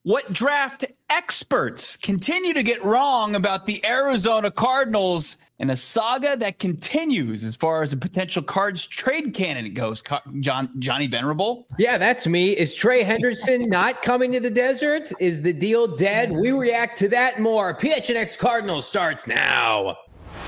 What draft experts continue to get wrong about the Arizona Cardinals, and a saga that continues as far as a potential Cards trade candidate goes. Johnny Venerable? Yeah, that's me. Is Trey Henderson not coming to the desert? Is the deal dead? We react to that more. PHNX Cardinals starts now.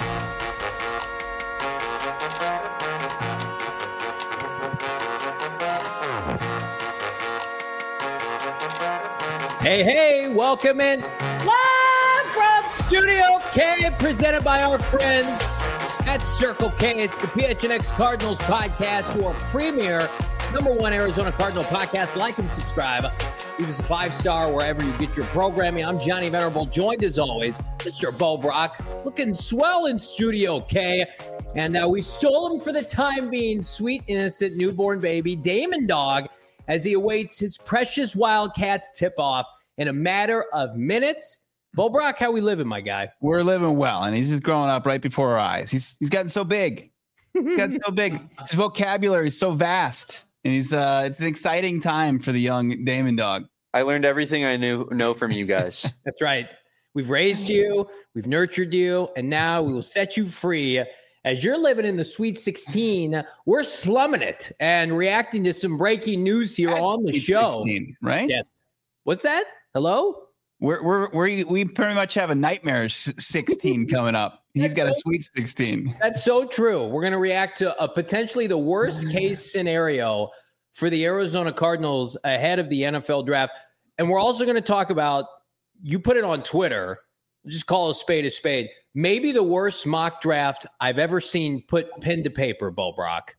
Hey, welcome in. Live from Studio K, presented by our friends at Circle K. It's the PHNX Cardinals podcast, your premier #1 Arizona Cardinal podcast. Like and subscribe. Leave us a 5-star wherever you get your programming. I'm Johnny Venerable, joined as always, Mr. Bo Brock, looking swell in Studio K. And we stole him for the time being, sweet, innocent, newborn baby, Damon Dog, as he awaits his precious Wildcats tip-off in a matter of minutes. Bo Brock, how we living, my guy? We're living well, and he's just growing up right before our eyes. He's gotten so big. He's gotten so big. His vocabulary is so vast, and it's an exciting time for the young Damon Dog. I learned everything I know from you guys. That's right. We've raised you, we've nurtured you, and now we will set you free. As you're living in the Sweet 16, we're slumming it and reacting to some breaking news here on the show. 16, right? Yes. What's that? Hello? We pretty much have a nightmare 16 coming up. He's got a Sweet 16. That's so true. We're going to react to a potentially the worst case scenario for the Arizona Cardinals ahead of the NFL draft. And we're also going to talk about, you put it on Twitter, just call a spade, maybe the worst mock draft I've ever seen put pen to paper, Bo Brock.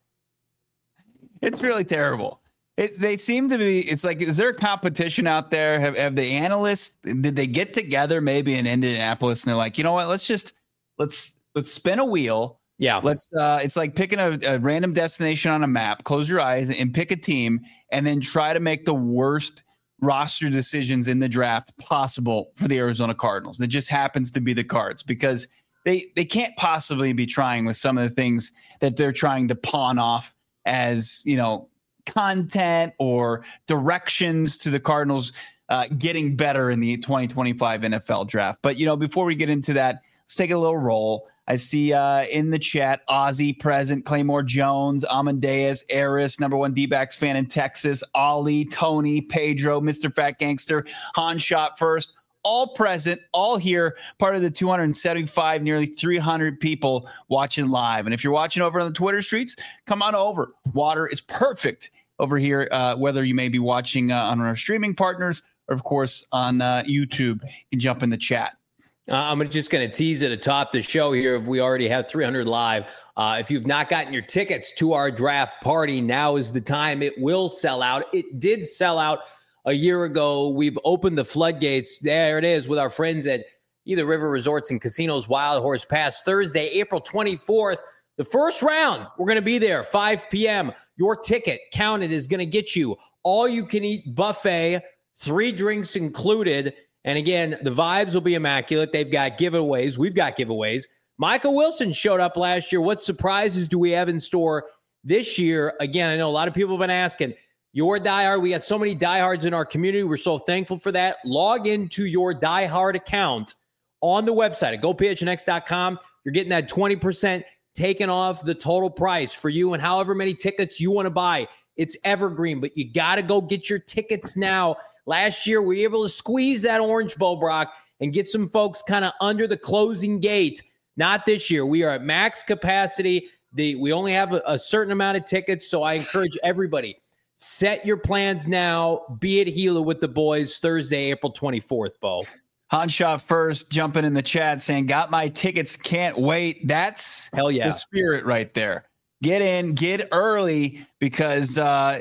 It's really terrible. They seem to be, it's like, is there a competition out there? Have the analysts, did they get together maybe in Indianapolis and they're like, you know what, let's spin a wheel. Yeah. It's like picking a random destination on a map, close your eyes and pick a team and then try to make the worst roster decisions in the draft possible for the Arizona Cardinals. That just happens to be the Cards, because they can't possibly be trying with some of the things that they're trying to pawn off as, content or directions to the Cardinals getting better in the 2025 NFL draft. But, before we get into that, let's take a little roll. I see in the chat, Ozzy present, Claymore Jones, Amadeus, Eris, #1 D-backs fan in Texas, Ollie, Tony, Pedro, Mr. Fat Gangster, Han Shot First, all present, all here, part of the 275, nearly 300 people watching live. And if you're watching over on the Twitter streets, come on over. Water is perfect over here, whether you may be watching on our streaming partners or, of course, on YouTube. You can jump in the chat. I'm just going to tease it atop the show here. If we already have 300 live, if you've not gotten your tickets to our draft party, now is the time. It will sell out. It did sell out a year ago. We've opened the floodgates. There it is with our friends at Either River Resorts and Casinos, Wild Horse Pass, Thursday, April 24th. The first round, we're going to be there, 5 p.m. Your ticket counted is going to get you all-you-can-eat buffet, 3 drinks included. And again, the vibes will be immaculate. They've got giveaways. We've got giveaways. Michael Wilson showed up last year. What surprises do we have in store this year? Again, I know a lot of people have been asking, your diehard, we got so many diehards in our community. We're so thankful for that. Log into your diehard account on the website at gophnx.com. You're getting that 20% taken off the total price for you and however many tickets you want to buy. It's evergreen, but you got to go get your tickets now. Last year, we were able to squeeze that orange, Bo Brock, and get some folks kind of under the closing gate. Not this year. We are at max capacity. We only have a certain amount of tickets, so I encourage everybody, set your plans now. Be at Gila with the boys Thursday, April 24th, Bo. Han Shot First jumping in the chat saying, got my tickets, can't wait. That's hell yeah, the spirit right there. Get in, get early, because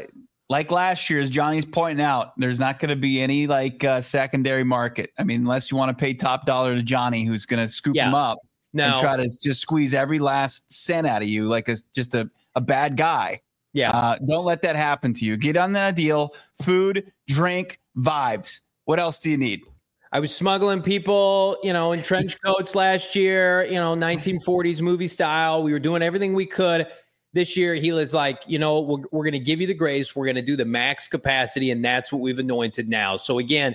like last year, as Johnny's pointing out, there's not going to be any secondary market. I mean, unless you want to pay top dollar to Johnny, who's going to scoop him up and try to just squeeze every last cent out of you like just a bad guy. Yeah. Don't let that happen to you. Get on that deal. Food, drink, vibes. What else do you need? I was smuggling people, in trench coats last year, 1940s movie style. We were doing everything we could. This year, Gila's like, we're going to give you the grace. We're going to do the max capacity, and that's what we've anointed now. So again,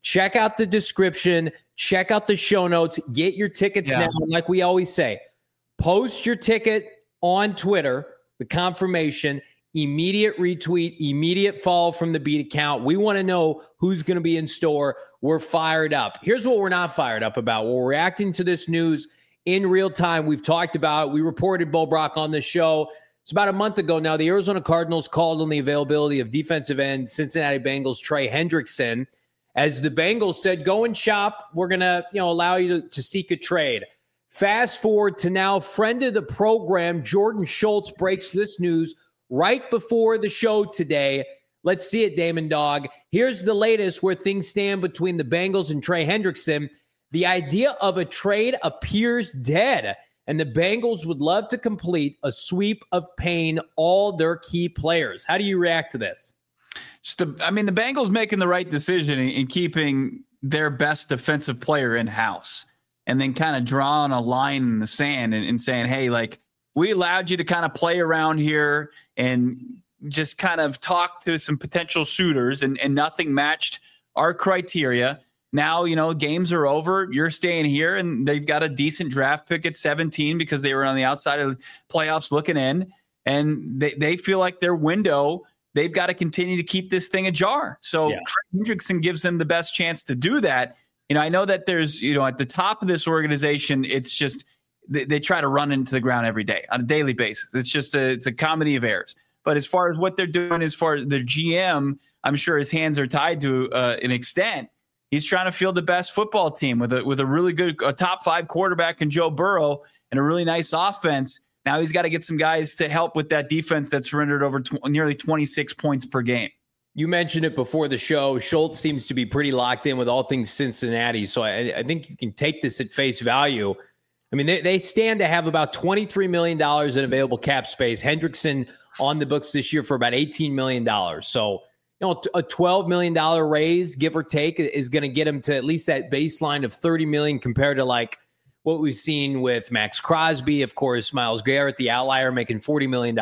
check out the description, check out the show notes, get your tickets now. Like we always say, post your ticket on Twitter, the confirmation, immediate retweet, immediate follow from the Beat account. We want to know who's going to be in store. We're fired up. Here's what we're not fired up about. We're reacting to this news in real time. We've talked about it. We reported Bo Brock on the show. It's about a month ago now. The Arizona Cardinals called on the availability of defensive end Cincinnati Bengals Trey Hendrickson. As the Bengals said, go and shop. We're going to allow you to seek a trade. Fast forward to now, friend of the program, Jordan Schultz, breaks this news right before the show today. Let's see it, Damon Dog. Here's the latest where things stand between the Bengals and Trey Hendrickson. The idea of a trade appears dead, and the Bengals would love to complete a sweep of paying all their key players. How do you react to this? The Bengals making the right decision in keeping their best defensive player in-house and then kind of drawing a line in the sand and saying, hey, like, we allowed you to kind of play around here and just kind of talk to some potential suitors and nothing matched our criteria. Now, games are over. You're staying here, and they've got a decent draft pick at 17 because they were on the outside of the playoffs looking in, and they feel like their window, they've got to continue to keep this thing ajar. So Trey Hendrickson gives them the best chance to do that. I know that there's, at the top of this organization, it's just they try to run into the ground every day on a daily basis. It's a comedy of errors. But as far as what they're doing, as far as their GM, I'm sure his hands are tied to an extent. He's trying to field the best football team with a really good top 5 quarterback in Joe Burrow and a really nice offense. Now he's got to get some guys to help with that defense that's surrendered over nearly 26 points per game. You mentioned it before the show. Schultz seems to be pretty locked in with all things Cincinnati. So I think you can take this at face value. I mean, they stand to have about $23 million in available cap space. Hendrickson on the books this year for about $18 million. So, a $12 million raise, give or take, is going to get him to at least that baseline of $30 million compared to like what we've seen with Max Crosby, of course, Myles Garrett, the outlier, making $40 million.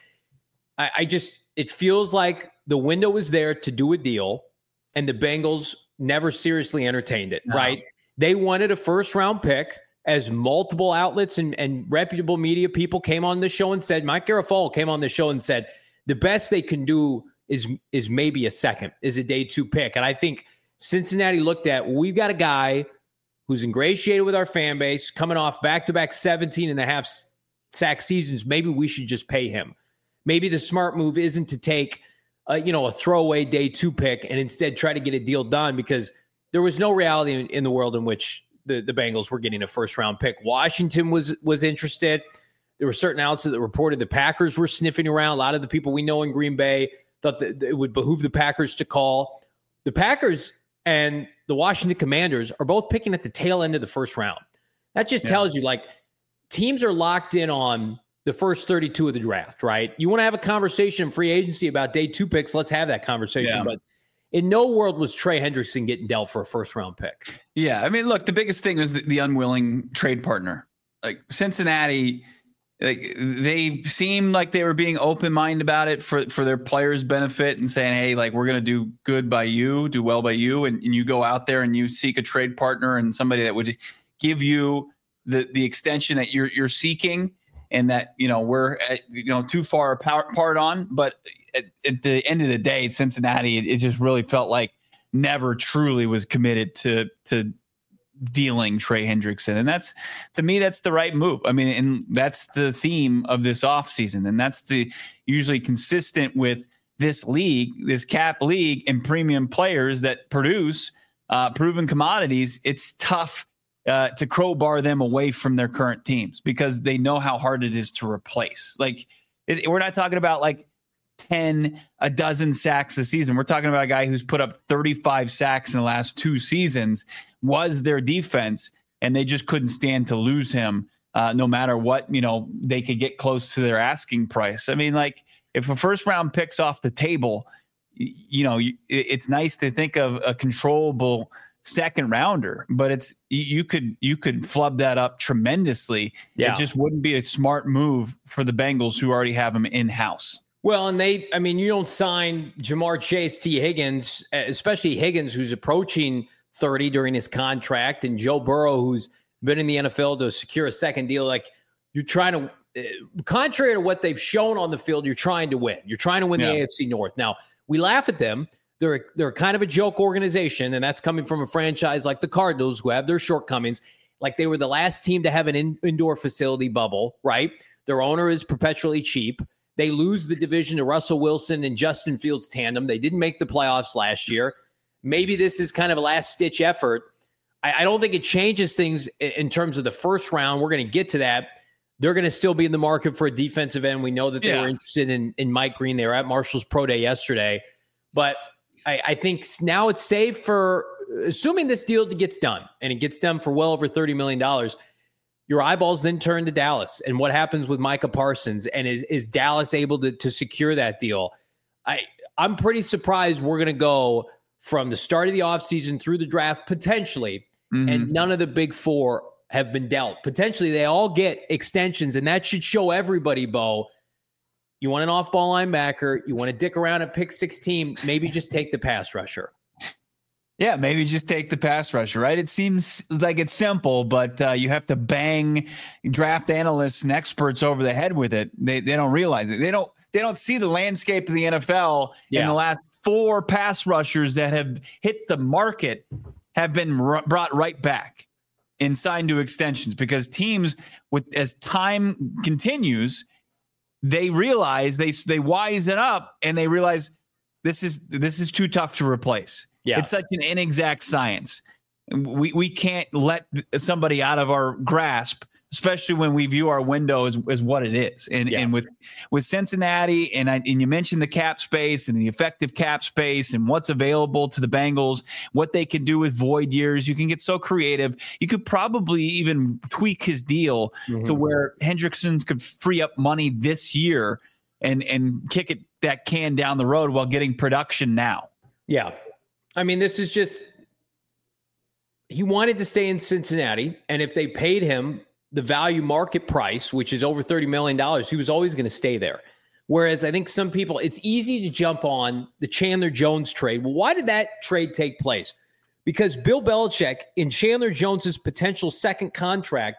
It feels like the window was there to do a deal, and the Bengals never seriously entertained it, right? They wanted a first-round pick, as multiple outlets and reputable media people came on the show and said, Mike Garafolo came on the show and said, the best they can do is maybe a day 2 pick. And I think Cincinnati looked at, we've got a guy who's ingratiated with our fan base, coming off back-to-back 17.5 sack seasons. Maybe we should just pay him. Maybe the smart move isn't to take a throwaway day 2 pick and instead try to get a deal done, because there was no reality in the world in which the Bengals were getting a first-round pick. Washington was interested. There were certain outlets that reported the Packers were sniffing around. A lot of the people we know in Green Bay thought that it would behoove the Packers to call. The Packers and the Washington Commanders are both picking at the tail end of the first round. That just tells you, like, teams are locked in on the first 32 of the draft, right? You want to have a conversation in free agency about day 2 picks, let's have that conversation. But in no world was Trey Hendrickson getting dealt for a first-round pick. Yeah, I mean, look, the biggest thing was the unwilling trade partner. Like Cincinnati, they seemed like they were being open-minded about it for their players' benefit and saying, hey, like, we're going to do good by you, do well by you, and you go out there and you seek a trade partner and somebody that would give you the extension that you're seeking, and that, we're too far apart on. But at the end of the day, Cincinnati, it just really felt like never truly was committed to dealing Trey Hendrickson. And that's, to me, that's the right move. I mean, and that's the theme of this offseason. And that's usually consistent with this league, this cap league, and premium players that produce proven commodities. It's tough to crowbar them away from their current teams because they know how hard it is to replace. Like, we're not talking about like a dozen sacks a season. We're talking about a guy who's put up 35 sacks in the last 2 seasons, was their defense, and they just couldn't stand to lose him no matter what, they could get close to their asking price. I mean, like, if a first round pick's off the table, it's nice to think of a controllable second rounder, but you could flub that up tremendously. Yeah. It just wouldn't be a smart move for the Bengals, who already have him in house. Well, and you don't sign Jamar Chase, T. Higgins, especially Higgins, who's approaching 30 during his contract, and Joe Burrow, who's been in the NFL to secure a second deal. Like, you're trying to, contrary to what they've shown on the field, you're trying to win. You're trying to win the AFC North. Now, we laugh at them. They're kind of a joke organization, and that's coming from a franchise like the Cardinals, who have their shortcomings. Like, they were the last team to have an indoor facility bubble, right? Their owner is perpetually cheap. They lose the division to Russell Wilson and Justin Fields tandem. They didn't make the playoffs last year. Maybe this is kind of a last-ditch effort. I don't think it changes things in terms of the first round. We're going to get to that. They're going to still be in the market for a defensive end. We know that they were interested in Mike Green. They were at Marshall's Pro Day yesterday. But I think now it's safe for, assuming this deal gets done, and it gets done for well over $30 million, your eyeballs then turn to Dallas. And what happens with Micah Parsons? And is Dallas able to secure that deal? I'm pretty surprised we're going to go from the start of the offseason through the draft, potentially, and none of the big four have been dealt. Potentially, they all get extensions, and that should show everybody, Bo, you want an off-ball linebacker, you want to dick around at pick 16, maybe just take the pass rusher. Yeah, maybe just take the pass rusher, right? It seems like it's simple, but you have to bang draft analysts and experts over the head with it. They don't realize it. They don't see the landscape of the NFL in the last 4 pass rushers that have hit the market have been brought right back and signed to extensions, because teams, as time continues, they realize they wisen up and they realize this is too tough to replace. Yeah. It's such an inexact science. We can't let somebody out of our grasp, especially when we view our window as what it is. And with Cincinnati, and you mentioned the cap space and the effective cap space and what's available to the Bengals, what they can do with void years. You can get so creative. You could probably even tweak his deal to where Hendrickson could free up money this year and kick that can down the road while getting production now. Yeah. I mean, this is just, he wanted to stay in Cincinnati, and if they paid him the value market price, which is over $30 million, he was always going to stay there. Whereas I think some people, it's easy to jump on the Chandler Jones trade. Well, why did that trade take place? Because Bill Belichick, in Chandler Jones's potential second contract,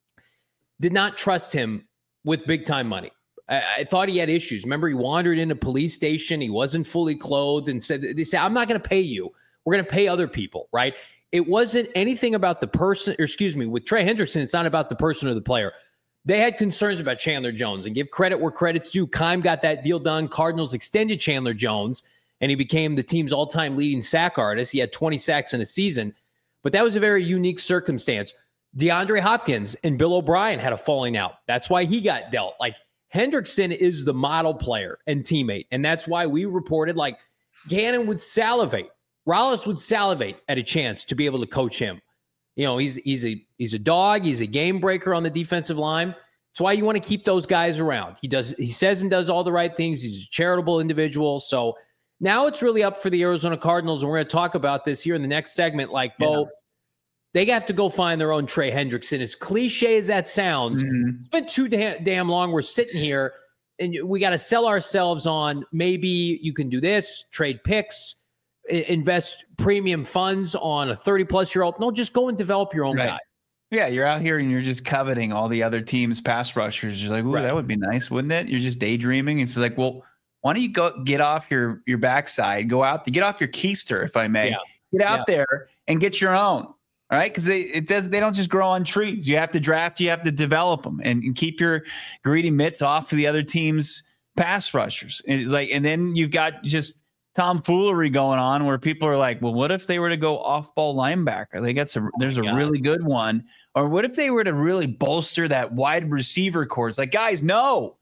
did not trust him with big-time money. I thought he had issues. Remember, he wandered in a police station. He wasn't fully clothed and they said, I'm not going to pay you. We're going to pay other people, right? It wasn't anything about the person, with Trey Hendrickson, it's not about the person or the player. They had concerns about Chandler Jones, and give credit where credit's due. Keim got that deal done. Cardinals extended Chandler Jones, and he became the team's all-time leading sack artist. He had 20 sacks in a season, but that was a very unique circumstance. DeAndre Hopkins and Bill O'Brien had a falling out. That's why he got dealt. Like, Hendrickson is the model player and teammate, and that's why we reported, like, Gannon would salivate. Rollis would salivate at a chance to be able to coach him. You know, he's a dog. He's a game breaker on the defensive line. That's why you want to keep those guys around. He says and does all the right things. He's a charitable individual. So now it's really up for the Arizona Cardinals, and we're going to talk about this here in the next segment. Like, Bo, they have to go find their own Trey Hendrickson. As cliche as that sounds, it's been too damn long. We're sitting here, and we got to sell ourselves on maybe you can do this, trade picks, invest premium funds on a 30-plus-year-old. No, just go and develop your own guy. Yeah, you're out here and you're just coveting all the other teams' pass rushers. You're like, ooh, that would be nice, wouldn't it? You're just daydreaming. It's like, well, why don't you go get off your backside, go out, get off your keister, if I may. Get out there and get your own. All right, because they don't just grow on trees. You have to draft, you have to develop them, and keep your greedy mitts off of the other team's pass rushers. And then you've got just tomfoolery going on where people are like, well, what if they were to go off-ball linebacker? There's a really good one. Or what if they were to really bolster that wide receiver corps? It's like, guys, no,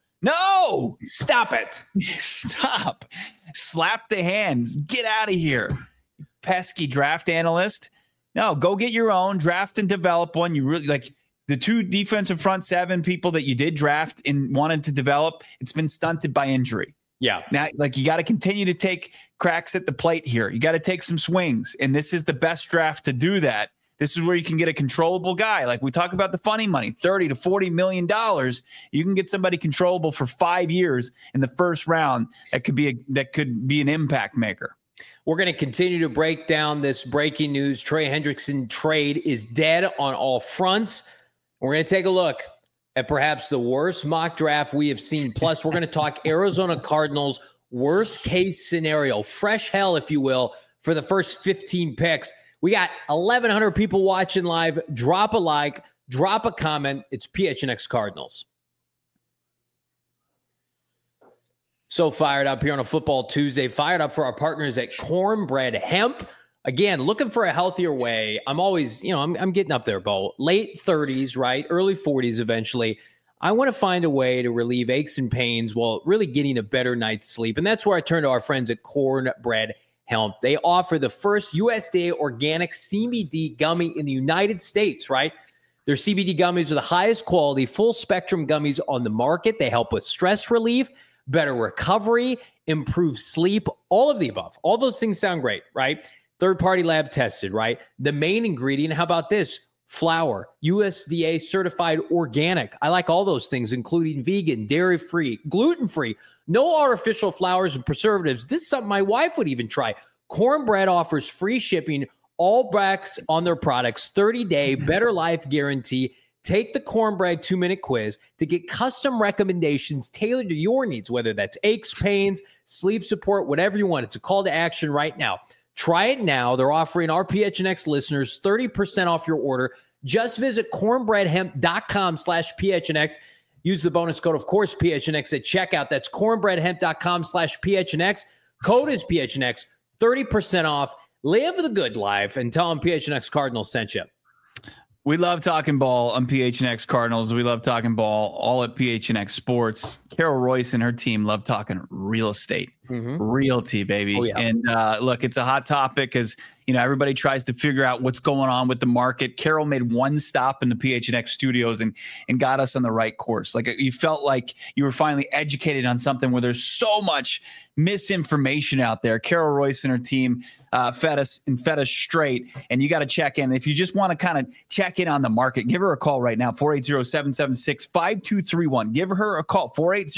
stop it, stop, slap the hands, get out of here, pesky draft analyst. No, go get your own, draft and develop one. You really like the 2 defensive front 7 people that you did draft and wanted to develop. It's been stunted by injury. Yeah. Now, like, you got to continue to take cracks at the plate here. You got to take some swings. And this is the best draft to do that. This is where you can get a controllable guy. Like we talk about the funny money, $30 to $40 million. You can get somebody controllable for 5 years in the first round. That could be an impact maker. We're going to continue to break down this breaking news. Trey Hendrickson trade is dead on all fronts. We're going to take a look at perhaps the worst mock draft we have seen. Plus, we're going to talk Arizona Cardinals worst case scenario, fresh hell, if you will, for the first 15 picks. We got 1,100 people watching live. Drop a like, drop a comment. It's PHNX Cardinals. So fired up here on a Football Tuesday. Fired up for our partners at Cornbread Hemp. Again, looking for a healthier way. I'm always, I'm getting up there, Bo. Late 30s, right? Early 40s eventually. I want to find a way to relieve aches and pains while really getting a better night's sleep. And that's where I turn to our friends at Cornbread Hemp. They offer the first USDA organic CBD gummy in the United States, right? Their CBD gummies are the highest quality, full spectrum gummies on the market. They help with stress relief, better recovery, improve sleep, all of the above. All those things sound great, right? Third-party lab tested, right? The main ingredient, how about this? Flour, USDA certified organic. I like all those things, including vegan, dairy-free, gluten-free, no artificial flours and preservatives. This is something my wife would even try. Cornbread offers free shipping, all backs on their products, 30-day better life guarantee. Take the Cornbread 2-minute quiz to get custom recommendations tailored to your needs, whether that's aches, pains, sleep support, whatever you want. It's a call to action right now. Try it now. They're offering our PHNX listeners 30% off your order. Just visit cornbreadhemp.com/PHNX. Use the bonus code, of course, PHNX at checkout. That's cornbreadhemp.com/PHNX. Code is PHNX. 30% off. Live the good life and tell them PHNX Cardinals sent you. We love talking ball on PHNX Cardinals. We love talking ball all at PHNX Sports. Carol Royce and her team love talking real estate, realty, baby. Oh, yeah. And look, it's a hot topic because, everybody tries to figure out what's going on with the market. Carol made one stop in the PHNX studios and got us on the right course. Like you felt like you were finally educated on something where there's so much misinformation out there. Carol Royce and her team fed us straight, and you got to check in. If you just want to kind of check in on the market, give her a call right now, 480-776-5231. Give her a call,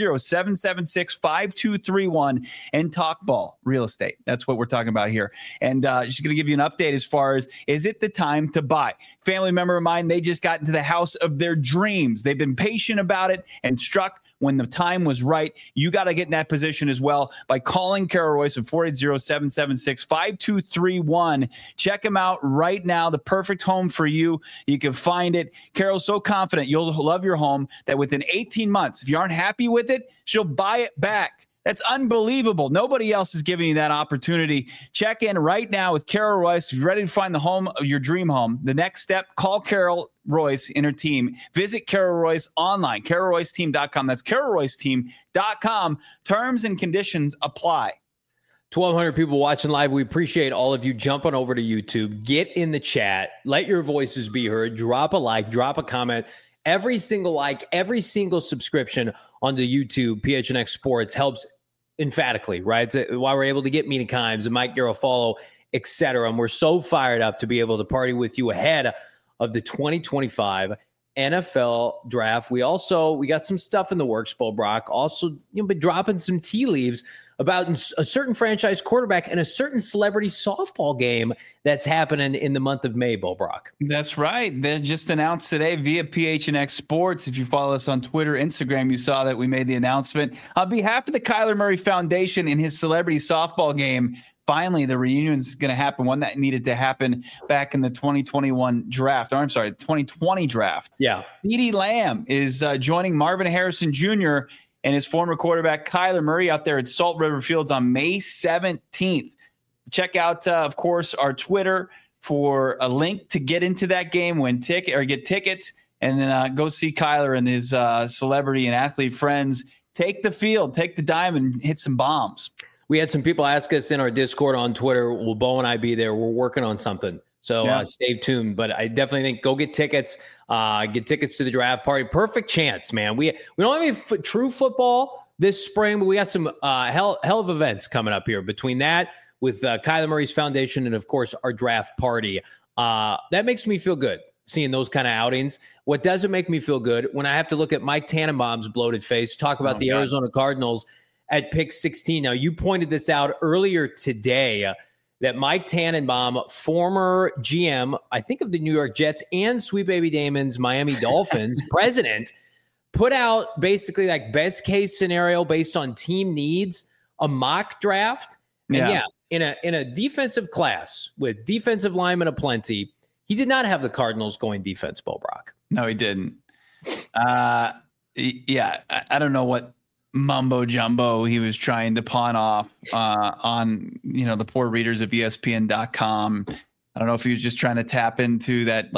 480-776-5231, and talk ball real estate. That's what we're talking about here. And she's going to give you an update as far as, is it the time to buy? Family member of mine, they just got into the house of their dreams. They've been patient about it and struck when the time was right. You got to get in that position as well by calling Carol Royce at 480-776-5231. Check him out right now. The perfect home for you. You can find it. Carol's so confident you'll love your home that within 18 months, if you aren't happy with it, she'll buy it back. That's unbelievable. Nobody else is giving you that opportunity. Check in right now with Carol Royce. If you're ready to find the home of your dream home, the next step, call Carol Royce and her team. Visit Carol Royce online, carolroyceteam.com. That's carolroyceteam.com. Terms and conditions apply. 1,200 people watching live. We appreciate all of you jumping over to YouTube. Get in the chat. Let your voices be heard. Drop a like, drop a comment. Every single like, every single subscription onto YouTube, PHNX Sports, helps emphatically, right? It's why we're able to get Mina Kimes and Mike Garofalo, et cetera. And we're so fired up to be able to party with you ahead of the 2025 NFL draft. We got some stuff in the works, Bo Brock. Also, been dropping some tea leaves about a certain franchise quarterback and a certain celebrity softball game that's happening in the month of May, Bo Brock. That's right. They just announced today via PHNX Sports. If you follow us on Twitter, Instagram, you saw that we made the announcement. On behalf of the Kyler Murray Foundation in his celebrity softball game, finally, the reunion is going to happen, one that needed to happen back in the 2020 draft. Yeah. CeeDee Lamb is joining Marvin Harrison Jr. and his former quarterback Kyler Murray out there at Salt River Fields on May 17th. Check out, of course, our Twitter for a link to get into that game, get tickets, and then go see Kyler and his celebrity and athlete friends take the field, take the diamond, hit some bombs. We had some people ask us in our Discord on Twitter, will Bo and I be there? We're working on something. So stay tuned. But I definitely think go get tickets. Get tickets to the draft party. Perfect chance, man. We don't have any true football this spring, but we got some hell of events coming up here. Between that, with Kyler Murray's foundation and, of course, our draft party. That makes me feel good, seeing those kind of outings. What doesn't make me feel good when I have to look at Mike Tannenbaum's bloated face, talk about Arizona Cardinals at pick 16. Now, you pointed this out earlier today, that Mike Tannenbaum, former GM, I think of the New York Jets and Sweet Baby Damon's Miami Dolphins president, put out basically like best case scenario based on team needs, a mock draft. And in a defensive class with defensive linemen aplenty, he did not have the Cardinals going defense, Bo Brock. No, he didn't. I don't know what mumbo jumbo he was trying to pawn off on the poor readers of ESPN.com. I don't know if he was just trying to tap into that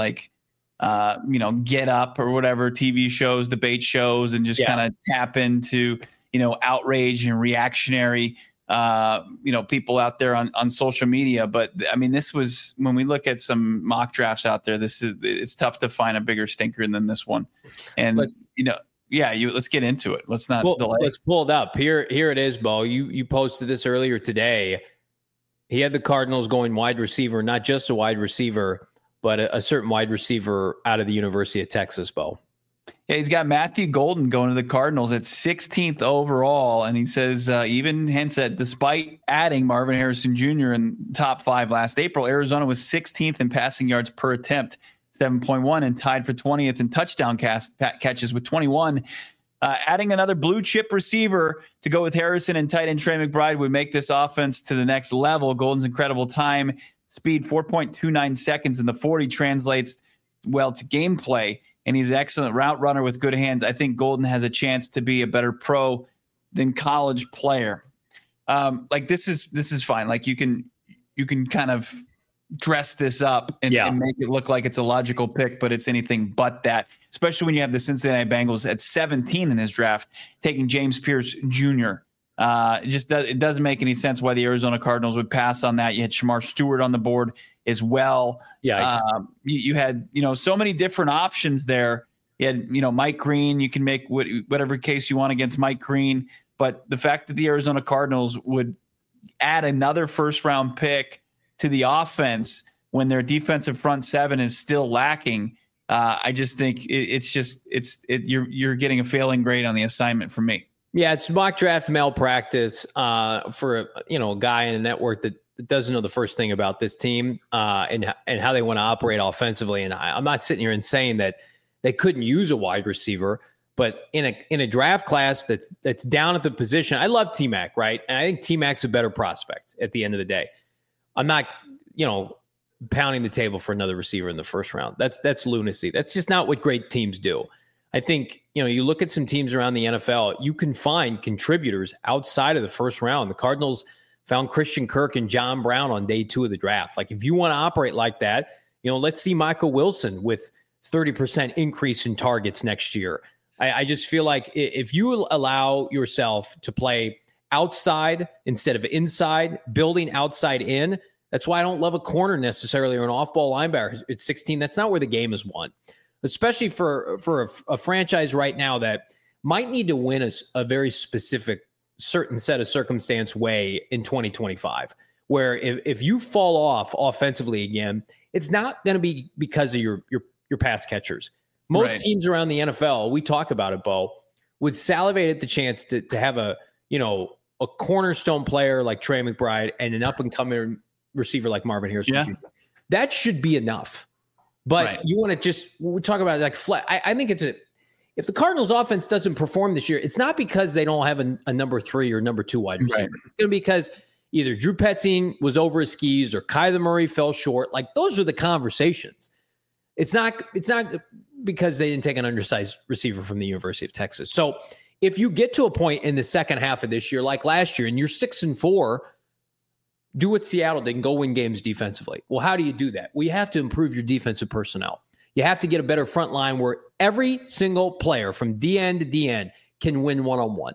Get Up or whatever TV shows, debate shows, and just kind of tap into outrage and reactionary people out there on social media. But I mean, this was, when we look at some mock drafts out there, it's tough to find a bigger stinker than this one. And let's get into it. Let's not delay. Let's pull it up. Here it is, Bo. You posted this earlier today. He had the Cardinals going wide receiver, not just a wide receiver, but a certain wide receiver out of the University of Texas, Bo. Yeah, he's got Matthew Golden going to the Cardinals at 16th overall. And he says, even hints that despite adding Marvin Harrison Jr. in top 5 last April, Arizona was 16th in passing yards per attempt, 7.1, and tied for 20th in touchdown catches with 21. Adding another blue chip receiver to go with Harrison and tight end Trey McBride would make this offense to the next level. Golden's incredible time, speed 4.29 seconds in the 40 translates well to gameplay, and he's an excellent route runner with good hands. I think Golden has a chance to be a better pro than college player. This is fine. Like you can kind of dress this up and make it look like it's a logical pick, but it's anything but that, especially when you have the Cincinnati Bengals at 17 in his draft, taking James Pierce Jr. It doesn't make any sense why the Arizona Cardinals would pass on that. You had Shamar Stewart on the board as well. You had, so many different options there. You had, Mike Green. You can make whatever case you want against Mike Green, but the fact that the Arizona Cardinals would add another first round pick to the offense when their defensive front seven is still lacking, I just think you're getting a failing grade on the assignment for me. Yeah, it's mock draft malpractice for a guy in a network that doesn't know the first thing about this team and how they want to operate offensively. And I'm not sitting here and saying that they couldn't use a wide receiver, but in a draft class that's down at the position, I love T-Mac, right? And I think T-Mac's a better prospect at the end of the day. I'm not, pounding the table for another receiver in the first round. That's lunacy. That's just not what great teams do. I think, you look at some teams around the NFL, you can find contributors outside of the first round. The Cardinals found Christian Kirk and John Brown on day 2 of the draft. Like, if you want to operate like that, let's see Michael Wilson with 30% increase in targets next year. I just feel like if you allow yourself to play outside instead of inside, building outside in, that's why I don't love a corner necessarily or an off-ball linebacker at 16. That's not where the game is won, especially for a franchise right now that might need to win a very specific certain set of circumstance way in 2025, where if you fall off offensively again, it's not going to be because of your pass catchers. Most teams around the NFL, we talk about it, Bo, would salivate at the chance to have a cornerstone player like Trey McBride and an up-and-coming receiver like Marvin Harrison Jr. That should be enough. But you want to we talk about like I think if the Cardinals offense doesn't perform this year, it's not because they don't have a number 3 or number 2 wide receiver. It's going to be because either Drew Petzing was over his skis or Kyler Murray fell short. Like, those are the conversations. It's not because they didn't take an undersized receiver from the University of Texas. So if you get to a point in the second half of this year, like last year, and you're 6-4, do what Seattle did and go win games defensively. Well, how do you do that? Well, you have to improve your defensive personnel. You have to get a better front line where every single player from DN to DN can win one-on-one.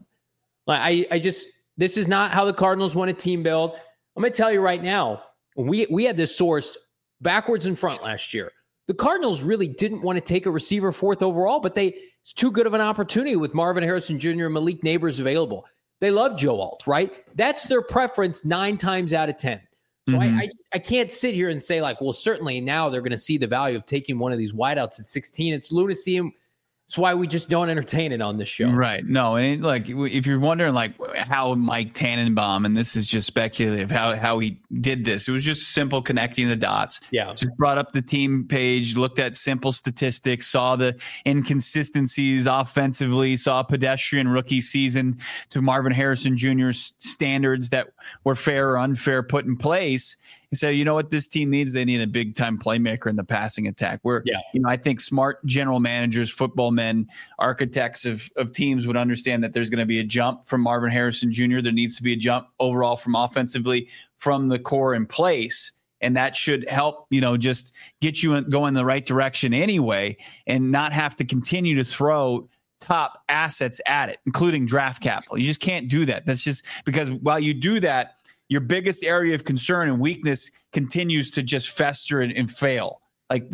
This is not how the Cardinals want a team build. I'm going to tell you right now, we had this sourced backwards and front last year. The Cardinals really didn't want to take a receiver 4th overall, but it's too good of an opportunity with Marvin Harrison Jr. and Malik Neighbors available. They love Joe Alt, right? That's their preference 9 times out of 10. So I can't sit here and say like, well, certainly now they're going to see the value of taking one of these wideouts at 16. It's lunacy. That's why we just don't entertain it on this show. Right. No, and like if you're wondering like how Mike Tannenbaum, and this is just speculative, how he did this, it was just simple connecting the dots. Yeah. Just brought up the team page, looked at simple statistics, saw the inconsistencies offensively, saw a pedestrian rookie season to Marvin Harrison Jr.'s standards that were fair or unfair put in place. He said, you know what this team needs? They need a big time playmaker in the passing attack. I think smart general managers, football men, architects of teams would understand that there's going to be a jump from Marvin Harrison Jr. There needs to be a jump overall from offensively from the core in place. And that should help, just get you going in the right direction anyway, and not have to continue to throw top assets at it, including draft capital. You just can't do that. That's just because while you do that, your biggest area of concern and weakness continues to just fester and fail. Like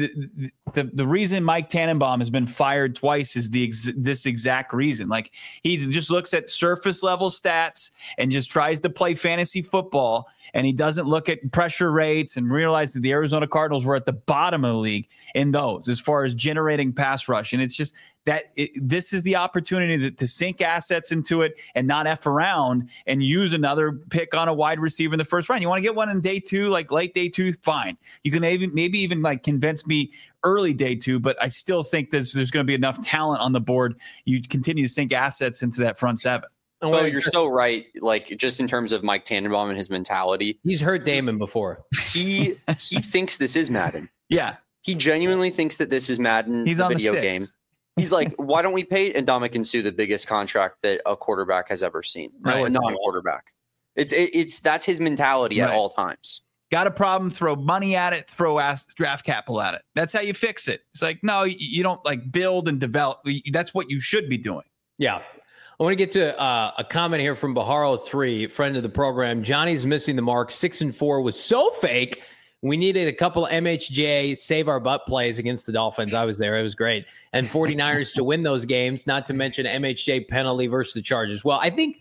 the reason Mike Tannenbaum has been fired twice is this exact reason. Like he just looks at surface level stats and just tries to play fantasy football, and he doesn't look at pressure rates and realize that the Arizona Cardinals were at the bottom of the league in those as far as generating pass rush. And it's just this is the opportunity to sink assets into it and not F around and use another pick on a wide receiver in the first round. You want to get one in day 2, like late day 2, fine. You can maybe even like convince me early day 2, but I still think there's going to be enough talent on the board. You continue to sink assets into that front 7. Well, you're so right. Like just in terms of Mike Tannenbaum and his mentality, he's heard Damon before. He thinks this is Madden. Yeah, he genuinely thinks that this is Madden. He's the on video the game. He's like, why don't we pay Ndamukong Suh the biggest contract that a quarterback has ever seen? Right. No, a non-quarterback. It's that's his mentality at all times. Got a problem, throw money at it, throw draft capital at it. That's how you fix it. It's like, no, you don't like build and develop. That's what you should be doing. Yeah. I want to get to a comment here from Baharo3, friend of the program. Johnny's missing the mark. 6-4 was so fake. We needed a couple of MHJ save our butt plays against the Dolphins. I was there. It was great. And 49ers to win those games, not to mention MHJ penalty versus the Chargers. Well, I think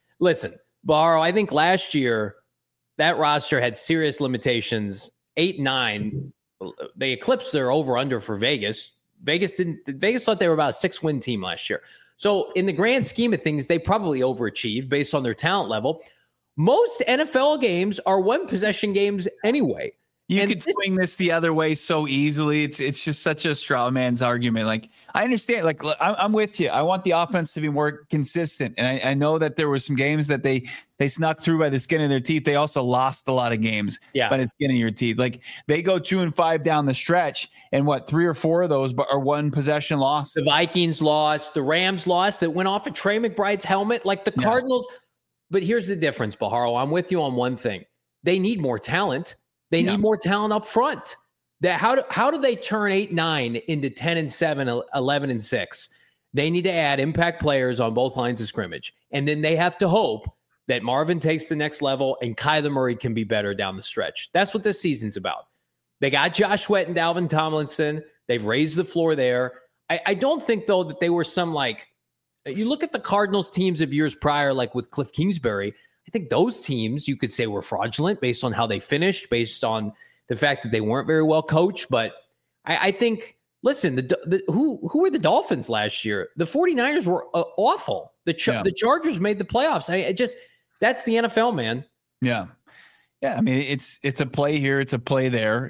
last year that roster had serious limitations. 8-9, they eclipsed their over-under for Vegas. Vegas thought they were about a 6-win team last year. So in the grand scheme of things, they probably overachieved based on their talent level. Most NFL games are one-possession games anyway. You could swing this the other way so easily. It's just such a straw man's argument. Like, I understand. Like, I'm with you. I want the offense to be more consistent. And I know that there were some games that they snuck through by the skin of their teeth. They also lost a lot of games by the skin of your teeth. Like, they go 2-5 down the stretch, and 3 or 4 of those are one possession losses. The Vikings lost. The Rams lost. That went off of Trey McBride's helmet. Like the Cardinals. But here's the difference, Baharo. I'm with you on one thing. They need more talent. They need more talent up front. How do they turn 8-9 into 10-7, 11-6? They need to add impact players on both lines of scrimmage. And then they have to hope that Marvin takes the next level and Kyler Murray can be better down the stretch. That's what this season's about. They got Josh Sweat and Dalvin Tomlinson. They've raised the floor there. I don't think, though, that they were some you look at the Cardinals teams of years prior, like with Cliff Kingsbury. I think those teams you could say were fraudulent based on how they finished, based on the fact that they weren't very well coached. But I think, listen, who were the Dolphins last year? The 49ers were awful. The Chargers made the playoffs. That's the NFL, man. Yeah. Yeah. I mean, it's a play here. It's a play there.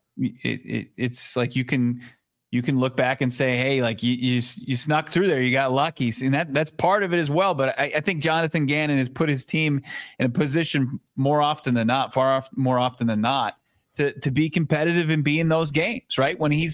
It's like you can look back and say, hey, like you snuck through there. You got lucky. And that's part of it as well. But I think Jonathan Gannon has put his team in a position more often than not, more often than not, to be competitive and be in those games, right? When he's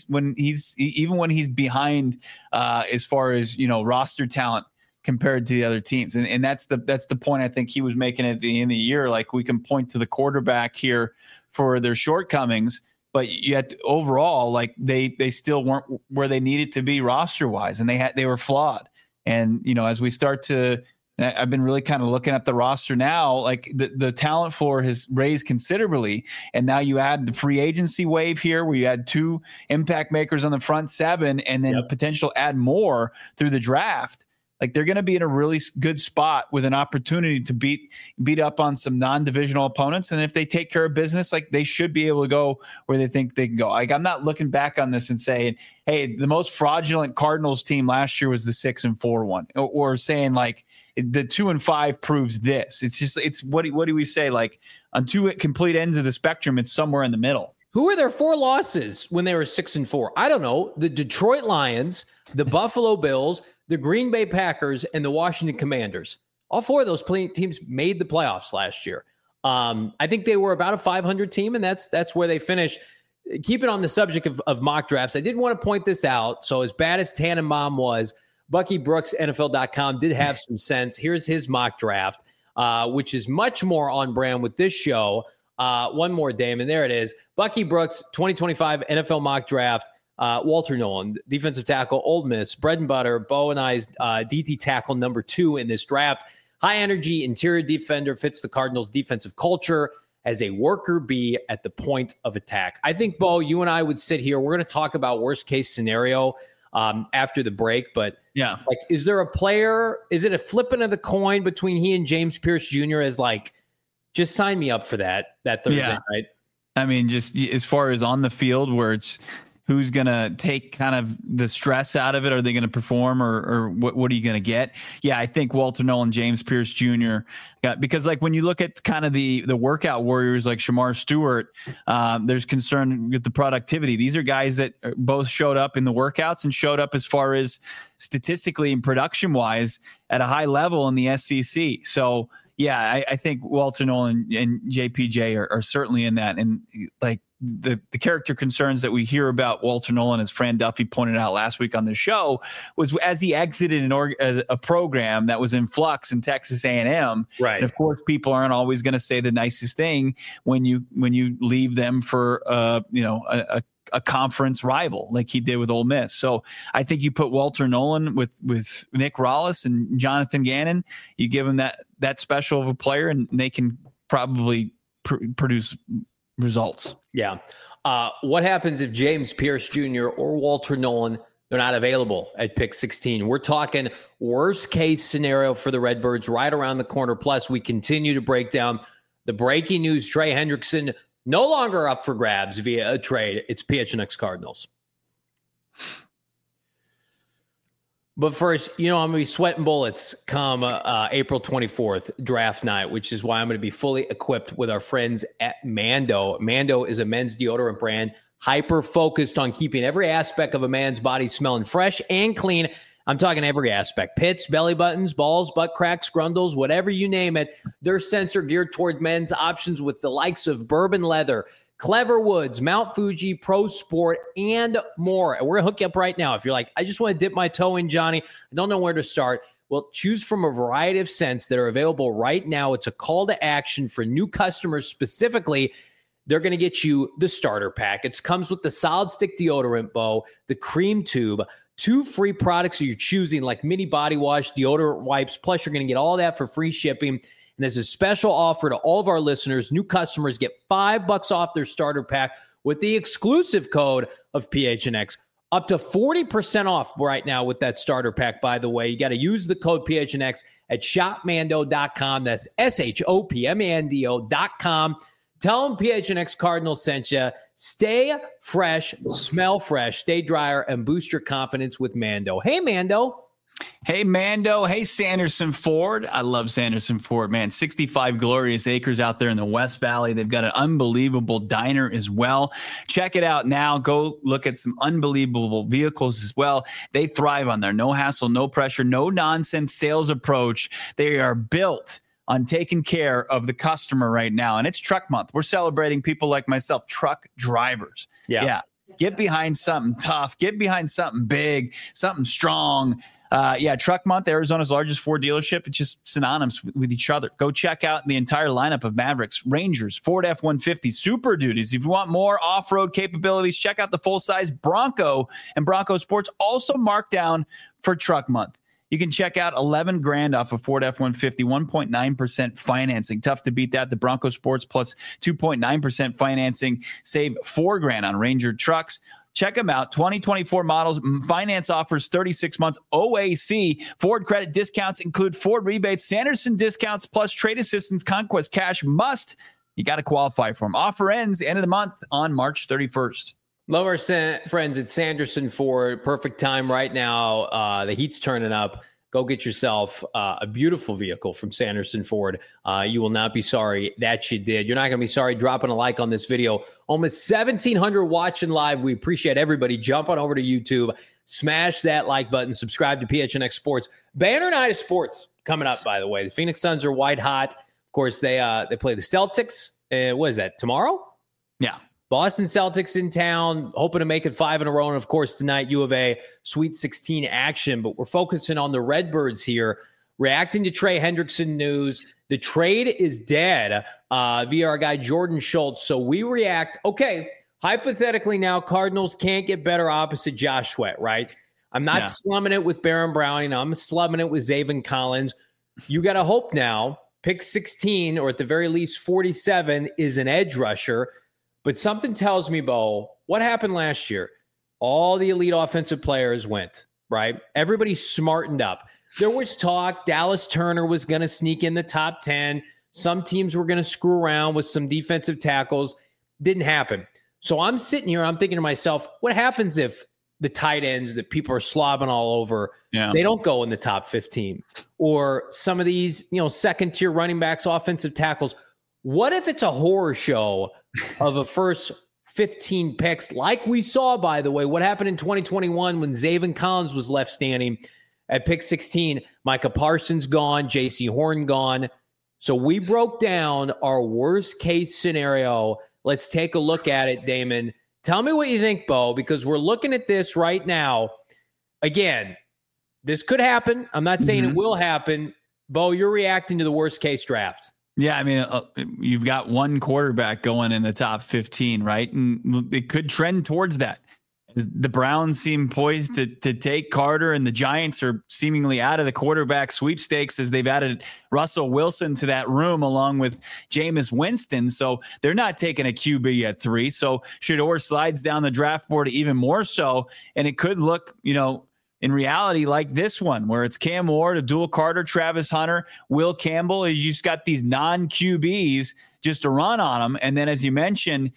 behind as far as, roster talent compared to the other teams. And that's the point I think he was making at the end of the year. Like, we can point to the quarterback here for their shortcomings, but yet overall, like they still weren't where they needed to be roster wise, and they were flawed. And as we start to, I've been really kind of looking at the roster now, like the talent floor has raised considerably, and now you add the free agency wave here, where you add 2 impact makers on the front 7, and then potential add more through the draft. Like they're going to be in a really good spot with an opportunity to beat up on some non-divisional opponents. And if they take care of business, like they should be able to go where they think they can go. Like I'm not looking back on this and saying, hey, the most fraudulent Cardinals team last year was the 6-4 one, or saying like the 2-5 proves this. It's just, it's what do we say? Like on two complete ends of the spectrum, it's somewhere in the middle. Who were their 4 losses when they were 6-4? I don't know. The Detroit Lions, the Buffalo Bills, the Green Bay Packers, and the Washington Commanders. All 4 of those teams made the playoffs last year. I think they were about a 500 team, and that's where they finished. Keep it on the subject of mock drafts. I did want to point this out. So as bad as Tannenbaum was, Bucky Brooks, NFL.com, did have some sense. Here's his mock draft, which is much more on brand with this show. One more, Damon. There it is. Bucky Brooks, 2025 NFL mock draft. Walter Nolan, defensive tackle, Ole Miss, bread and butter, Bo and I's DT tackle number 2 in this draft. High energy interior defender, fits the Cardinals' defensive culture as a worker bee at the point of attack. I think, Bo, you and I would sit here. We're going to talk about worst case scenario after the break. But yeah, like, is there a player? Is it a flipping of the coin between he and James Pierce Jr. as like, just sign me up for that Thursday night? I mean, just as far as on the field where it's who's going to take kind of the stress out of it? Are they going to perform or what are you going to get? Yeah, I think Walter Nolan, James Pierce Jr. Because like when you look at kind of the workout warriors like Shamar Stewart, there's concern with the productivity. These are guys that both showed up in the workouts and showed up as far as statistically and production wise at a high level in the SEC. So yeah, I think Walter Nolan and JPJ are certainly in that. And like, the character concerns that we hear about Walter Nolan, as Fran Duffy pointed out last week on the show, was as he exited a program that was in flux in Texas A&M. Right. And of course, people aren't always going to say the nicest thing when you leave them for a conference rival like he did with Ole Miss. So I think you put Walter Nolan with Nick Rallis and Jonathan Gannon. You give them that special of a player, and they can probably produce results. Yeah. What happens if James Pierce Jr. or Walter Nolan, they're not available at pick 16? We're talking worst case scenario for the Redbirds right around the corner. Plus, we continue to break down the breaking news. Trey Hendrickson no longer up for grabs via a trade. It's PHNX Cardinals. But first, I'm going to be sweating bullets come April 24th, draft night, which is why I'm going to be fully equipped with our friends at Mando. Mando is a men's deodorant brand hyper-focused on keeping every aspect of a man's body smelling fresh and clean. I'm talking every aspect. Pits, belly buttons, balls, butt cracks, grundles, whatever you name it. Their scents are geared toward men's options with the likes of Bourbon Leather, Clever Woods, Mount Fuji, Pro Sport, and more. And we're going to hook you up right now. If you're like, I just want to dip my toe in, Johnny, I don't know where to start. Well, choose from a variety of scents that are available right now. It's a call to action for new customers specifically. They're going to get you the starter pack. It comes with the solid stick deodorant, Bo, the cream tube, 2 free products that you're choosing, like mini body wash, deodorant wipes. Plus, you're going to get all that for free shipping. And as a special offer to all of our listeners, new customers get $5 off their starter pack with the exclusive code of PHNX. Up to 40% off right now with that starter pack, by the way. You got to use the code PHNX at shopmando.com. That's SHOPMANDO.com. Tell them PHNX Cardinals sent you. Stay fresh, smell fresh, stay drier, and boost your confidence with Mando. Hey, Mando. Hey, Mando. Hey, Sanderson Ford. I love Sanderson Ford, man. 65 glorious acres out there in the West Valley. They've got an unbelievable diner as well. Check it out now. Go look at some unbelievable vehicles as well. They thrive on their no hassle, no pressure, no nonsense sales approach. They are built on taking care of the customer right now. And it's truck month. We're celebrating people like myself, truck drivers. Yeah. Get behind something tough. Get behind something big, something strong. Truck month, Arizona's largest Ford dealership. It's just synonymous with each other. Go check out the entire lineup of Mavericks, Rangers, Ford F-150, Super Duties. If you want more off-road capabilities, check out the full-size Bronco and Bronco Sports, also marked down for truck month. You can check out $11,000 off a Ford F-150, 1.9% financing. Tough to beat that. The Bronco Sports plus 2.9% financing. Save $4,000 on Ranger trucks. Check them out. 2024 models. Finance offers 36 months OAC. Ford credit discounts include Ford rebates, Sanderson discounts, plus trade assistance, Conquest cash must. You got to qualify for them. Offer ends end of the month on March 31st. Love our friends at Sanderson Ford. Perfect time right now. The heat's turning up. Go get yourself a beautiful vehicle from Sanderson Ford. You will not be sorry that you did. You're not going to be sorry dropping a like on this video. Almost 1,700 watching live. We appreciate everybody. Jump on over to YouTube. Smash that like button. Subscribe to PHNX Sports. Banner Night of Sports coming up, by the way. The Phoenix Suns are white hot. Of course, they play the Celtics. What is that, tomorrow? Yeah. Boston Celtics in town, hoping to make it 5 in a row. And, of course, tonight, U of A, Sweet 16 action. But we're focusing on the Redbirds here, reacting to Trey Hendrickson news. The trade is dead via our guy Jordan Schultz. So we react. Okay, hypothetically now, Cardinals can't get better opposite Josh Sweat, right? I'm not slumming it with Baron Browning. I'm slumming it with Zaven Collins. You got to hope now, pick 16, or at the very least 47, is an edge rusher. But something tells me, Bo, what happened last year? All the elite offensive players went, right? Everybody smartened up. There was talk Dallas Turner was going to sneak in the top 10. Some teams were going to screw around with some defensive tackles. Didn't happen. So I'm sitting here, I'm thinking to myself, what happens if the tight ends that people are slobbing all over, they don't go in the top 15? Or some of these, second-tier running backs, offensive tackles. What if it's a horror show of a first 15 picks, like we saw, by the way, what happened in 2021 when Zaven Collins was left standing at pick 16, Micah Parsons gone, J.C. Horn gone. So we broke down our worst case scenario. Let's take a look at it, Damon. Tell me what you think, Bo, because we're looking at this right now. Again, this could happen. I'm not saying it will happen. Bo, you're reacting to the worst case draft. Yeah, I mean, you've got one quarterback going in the top 15, right? And it could trend towards that. The Browns seem poised to take Carter, and the Giants are seemingly out of the quarterback sweepstakes as they've added Russell Wilson to that room along with Jameis Winston. So they're not taking a QB at 3. So Shedeur slides down the draft board even more so, and it could look, in reality, like this one, where it's Cam Ward, Abdul Carter, Travis Hunter, Will Campbell. You just got these non-QBs just to run on them. And then, as you mentioned,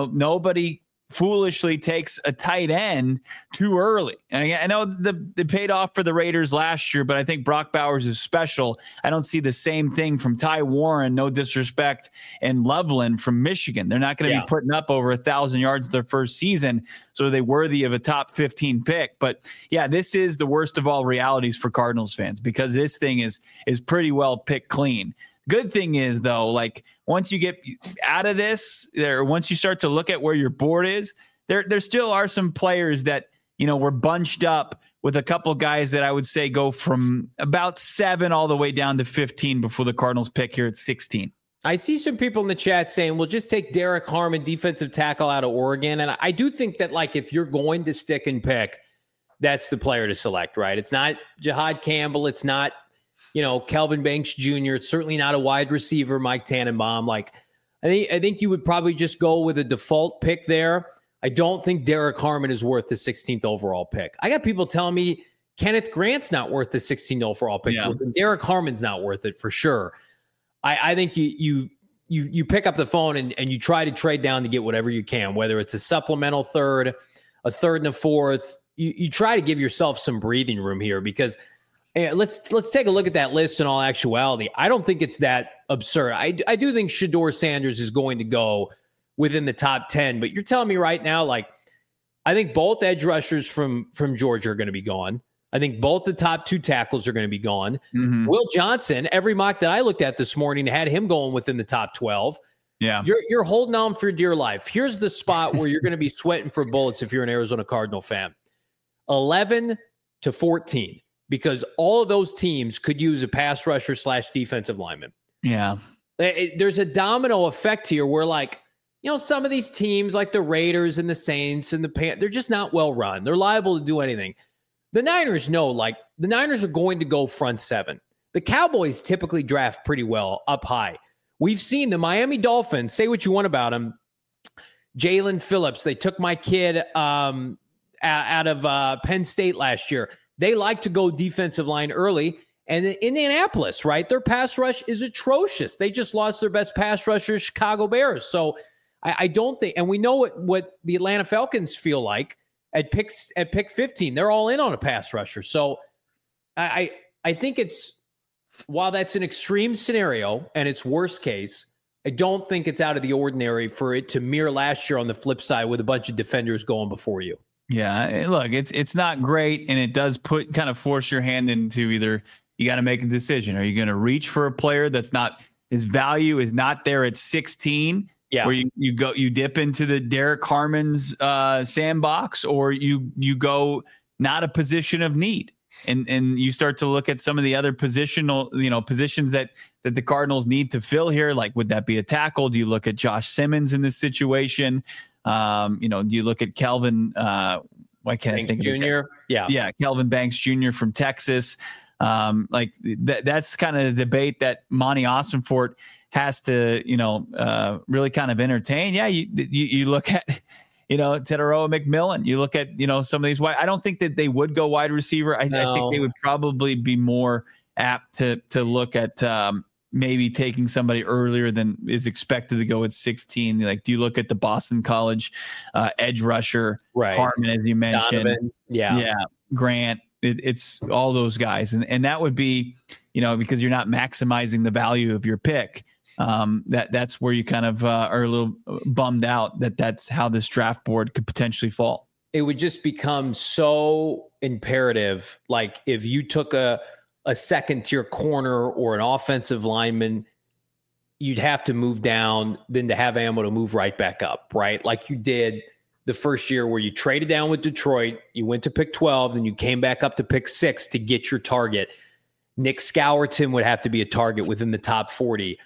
nobody foolishly takes a tight end too early. And I know the paid off for the Raiders last year, but I think Brock Bowers is special. I don't see the same thing from Ty Warren, no disrespect, and Loveland from Michigan. They're not going to be putting up over 1,000 yards their first season. So are they worthy of a top 15 pick? But yeah, this is the worst of all realities for Cardinals fans, because this thing is pretty well picked clean. Good thing is, though, like once you get out of this, once you start to look at where your board is, there still are some players that, were bunched up with a couple guys that I would say go from about 7 all the way down to 15 before the Cardinals pick here at 16. I see some people in the chat saying, well, just take Derek Harmon, defensive tackle out of Oregon. And I do think that, like, if you're going to stick and pick, that's the player to select, right? It's not Jihad Campbell. It's not, Kelvin Banks Jr. It's certainly not a wide receiver, Mike Tannenbaum. Like, I think you would probably just go with a default pick there. I don't think Derek Harmon is worth the 16th overall pick. I got people telling me Kenneth Grant's not worth the 16th overall pick. Yeah. Derek Harmon's not worth it for sure. I think you pick up the phone and you try to trade down to get whatever you can, whether it's a supplemental third, a third and a fourth. You try to give yourself some breathing room here, because let's take a look at that list in all actuality. I don't think it's that absurd. I do think Shedeur Sanders is going to go within the top 10, but you're telling me right now, like, I think both edge rushers from Georgia are going to be gone. I think both the top 2 tackles are going to be gone. Mm-hmm. Will Johnson, every mock that I looked at this morning had him going within the top 12. Yeah. You're holding on for dear life. Here's the spot where you're going to be sweating for bullets if you're an Arizona Cardinal fan. 11 to 14. Because all of those teams could use a pass rusher / defensive lineman. Yeah. There's a domino effect here where, like, some of these teams like the Raiders and the Saints and they're just not well run. They're liable to do anything. The Niners know, like, the Niners are going to go front 7. The Cowboys typically draft pretty well up high. We've seen the Miami Dolphins, say what you want about them. Jalen Phillips. They took my kid out of Penn State last year. They like to go defensive line early. And in Indianapolis, right, their pass rush is atrocious. They just lost their best pass rusher, Chicago Bears. So I don't think, and we know what the Atlanta Falcons feel like at pick 15. They're all in on a pass rusher. So I think it's, while that's an extreme scenario and it's worst case, I don't think it's out of the ordinary for it to mirror last year on the flip side with a bunch of defenders going before you. Yeah, look, it's not great, and it does kind of force your hand into either you got to make a decision. Are you going to reach for a player that's not, his value is not there at 16? Yeah. Where you dip into the Derek Harmon's sandbox, or you go not a position of need, and you start to look at some of the other positions that the Cardinals need to fill here. Like, would that be a tackle? Do you look at Josh Simmons in this situation? Do you look at Kelvin? Why can't Banks I think Jr.? Yeah, Kelvin Banks Jr. from Texas. That's kind of the debate that Monty Ossenfort has to, really kind of entertain. Yeah, you look at, Teteroa McMillan. You look at, some of these wide. I don't think that they would go wide receiver. I think they would probably be more apt to look at maybe taking somebody earlier than is expected to go at 16. Like, do you look at the Boston College edge rusher, right? Hartman, as you mentioned, Donovan. Yeah, Grant. It's all those guys, and that would be, because you're not maximizing the value of your pick. That's where you kind of are a little bummed out that's how this draft board could potentially fall. It would just become so imperative. Like, if you took a second tier corner or an offensive lineman, you'd have to move down then to have ammo to move right back up, right? Like you did the first year where you traded down with Detroit, you went to pick 12, then you came back up to pick 6 to get your target. Nick Scourton would have to be a target within the top 40.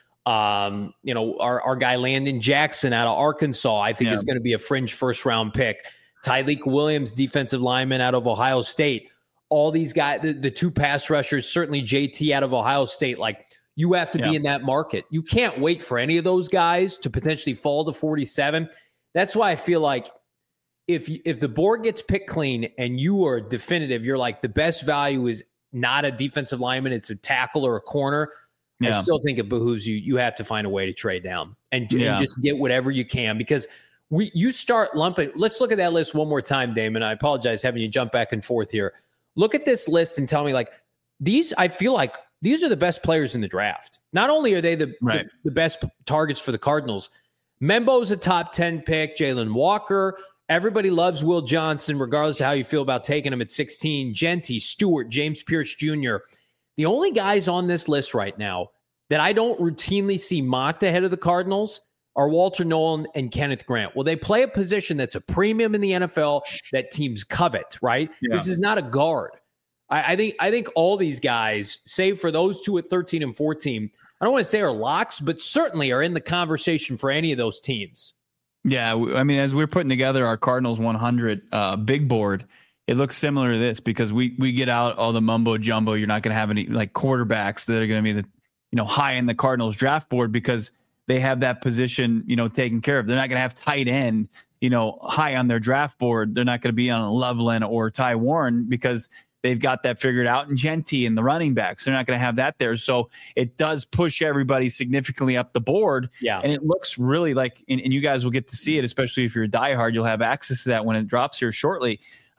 Our guy Landon Jackson out of Arkansas, I think is going to be a fringe first round pick. Tyleik Williams, defensive lineman out of Ohio State. All these guys, the two pass rushers, certainly JT out of Ohio State, like, you have to be in that market. You can't wait for any of those guys to potentially fall to 47. That's why I feel like if the board gets picked clean and you are definitive, you're like, the best value is not a defensive lineman, it's a tackle or a corner. I still think it behooves you. You have to find a way to trade down and just get whatever you can, because you start lumping. Let's look at that list one more time, Damon. I apologize having you jump back and forth here. Look at this list and tell me, like, I feel like these are the best players in the draft. Not only are they the best targets for the Cardinals, Membo's a top 10 pick, Jalen Walker. Everybody loves Will Johnson, regardless of how you feel about taking him at 16. Genty, Stewart, James Pierce Jr. The only guys on this list right now that I don't routinely see mocked ahead of the Cardinals are Walter Nolan and Kenneth Grant. Well, they play a position that's a premium in the NFL that teams covet, right? Yeah. This is not a guard. I think all these guys, save for those two at 13 and 14, I don't want to say are locks, but certainly are in the conversation for any of those teams. Yeah, I mean, as we're putting together our Cardinals 100 big board, it looks similar to this, because we get out all the mumbo jumbo. You're not going to have any like quarterbacks that are going to be high in the Cardinals draft board, because they have that position taken care of. They're not going to have tight end high on their draft board. They're not going to be on Loveland or Ty Warren, because they've got that figured out, and Genty and the running backs. They're not going to have that there. So it does push everybody significantly up the board. Yeah. And it looks really like, and you guys will get to see it, especially if you're a diehard, you'll have access to that when it drops here shortly.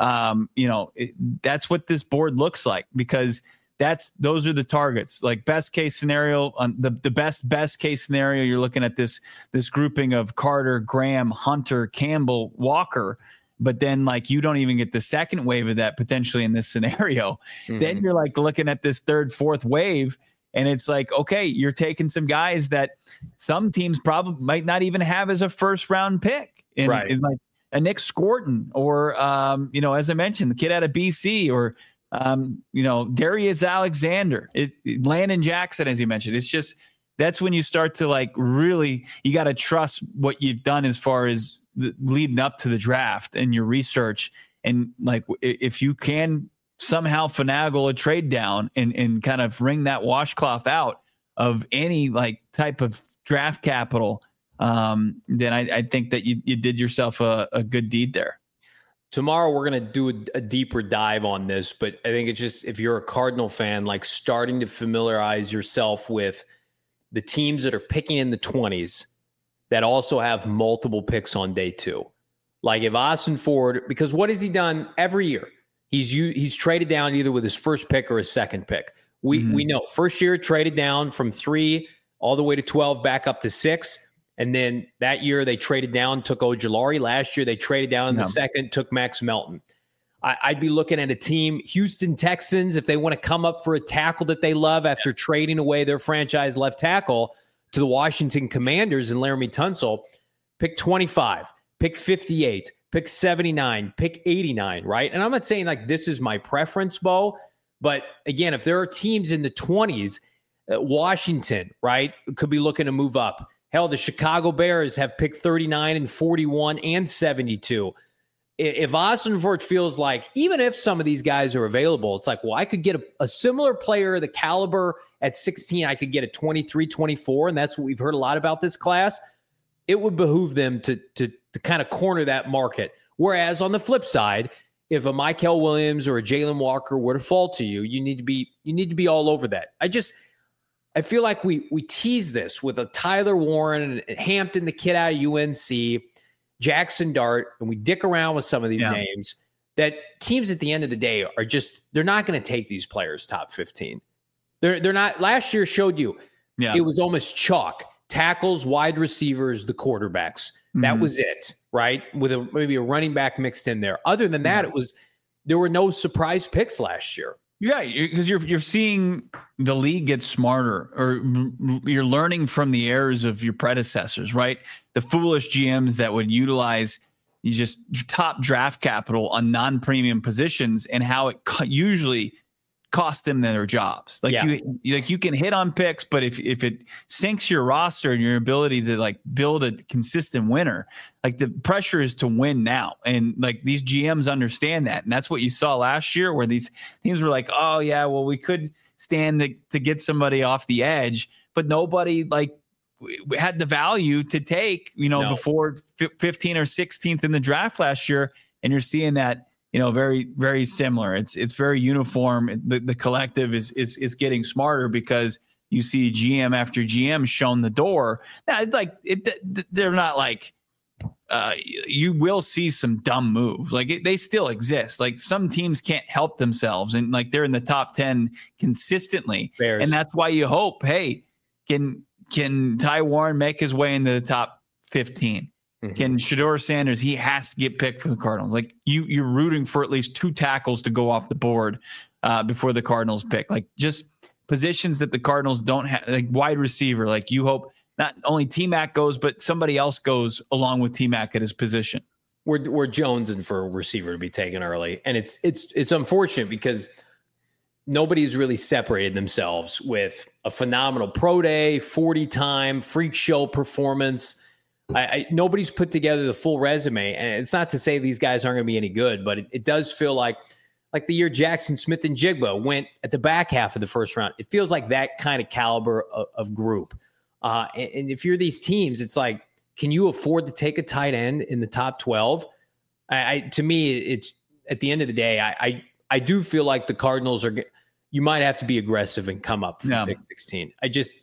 That's what this board looks like, because those are the targets. Like, best case scenario, the best case scenario, you're looking at this grouping of Carter, Graham, Hunter, Campbell, Walker. But then, like, you don't even get the second wave of that potentially in this scenario. Mm-hmm. Then you're like looking at this third, fourth wave, and it's like, okay, you're taking some guys that some teams probably might not even have as a first round pick. And like a Nick Scorton, or as I mentioned, the kid out of BC, or Darius Alexander, Landon Jackson, as you mentioned. It's just, that's when you start to, like, really, you got to trust what you've done as far as leading up to the draft and your research. And, like, if you can somehow finagle a trade down and kind of wring that washcloth out of any, like, type of draft capital, then I think that you did yourself a good deed there. Tomorrow we're going to do a deeper dive on this, but I think it's just, if you're a Cardinal fan, like starting to familiarize yourself with the teams that are picking in the 20s that also have multiple picks on day 2. Like if Austin Ford, because what has he done every year? He's traded down either with his first pick or his second pick. We know first year traded down from 3 all the way to 12, back up to 6. And then that year they traded down, took Ojulari. Last year they traded down in the second, took Max Melton. I'd be looking at a team, Houston Texans, if they want to come up for a tackle that they love after trading away their franchise left tackle to the Washington Commanders and Laramie Tunsil, pick 25, pick 58, pick 79, pick 89, right? And I'm not saying like this is my preference, Bo, but again, if there are teams in the 20s, Washington, right, could be looking to move up. Hell, the Chicago Bears have picked 39 and 41 and 72. If Austin Ford feels like, even if some of these guys are available, it's like, well, I could get a similar player, the caliber at 16, I could get a 23, 24, and that's what we've heard a lot about this class. It would behoove them to kind of corner that market. Whereas on the flip side, if a Mykel Williams or a Jalen Walker were to fall to you, you need to be all over that. I feel like we tease this with a Tyler Warren and Hampton, the kid out of UNC, Jackson Dart, and we dick around with some of these names that teams at the end of the day are just, they're not going to take these players top 15. They're not. Last year showed you it was almost chalk. Tackles, wide receivers, the quarterbacks. That was it, right? With maybe a running back mixed in there. Other than that, there were no surprise picks last year. Yeah, because you're seeing the league get smarter, or you're learning from the errors of your predecessors, right? The foolish GMs that would utilize just top draft capital on non-premium positions, and how it usually cost them their jobs. You can hit on picks, but if it sinks your roster and your ability to like build a consistent winner, like the pressure is to win now. And like these GMs understand that. And that's what you saw last year, where these teams were like, oh yeah, well, we could stand to get somebody off the edge, but nobody like had the value to take, before 15 or 16th in the draft last year. And you're seeing that, very, very similar. It's very uniform. The collective is getting smarter because you see GM after GM shown the door. Now, they're not like, you will see some dumb moves. Like they still exist. Like some teams can't help themselves, and like they're in the top 10 consistently. Bears. And that's why you hope, hey, can Ty Warren make his way into the top 15? Can Shedeur Sanders, he has to get picked for the Cardinals. Like you're rooting for at least 2 tackles to go off the board before the Cardinals pick. Like just positions that the Cardinals don't have, like wide receiver. Like you hope not only T-Mac goes, but somebody else goes along with T-Mac at his position. We're jonesing for a receiver to be taken early, and it's unfortunate because nobody's really separated themselves with a phenomenal pro day, 40 time freak show performance. Nobody's put together the full resume, and it's not to say these guys aren't going to be any good, but it does feel like the year Jackson Smith and Jigba went at the back half of the first round. It feels like that kind of caliber of group. And if you're these teams, it's like, can you afford to take a tight end in the top 12? To me, it's at the end of the day, I do feel like the Cardinals you might have to be aggressive and come up from pick 16.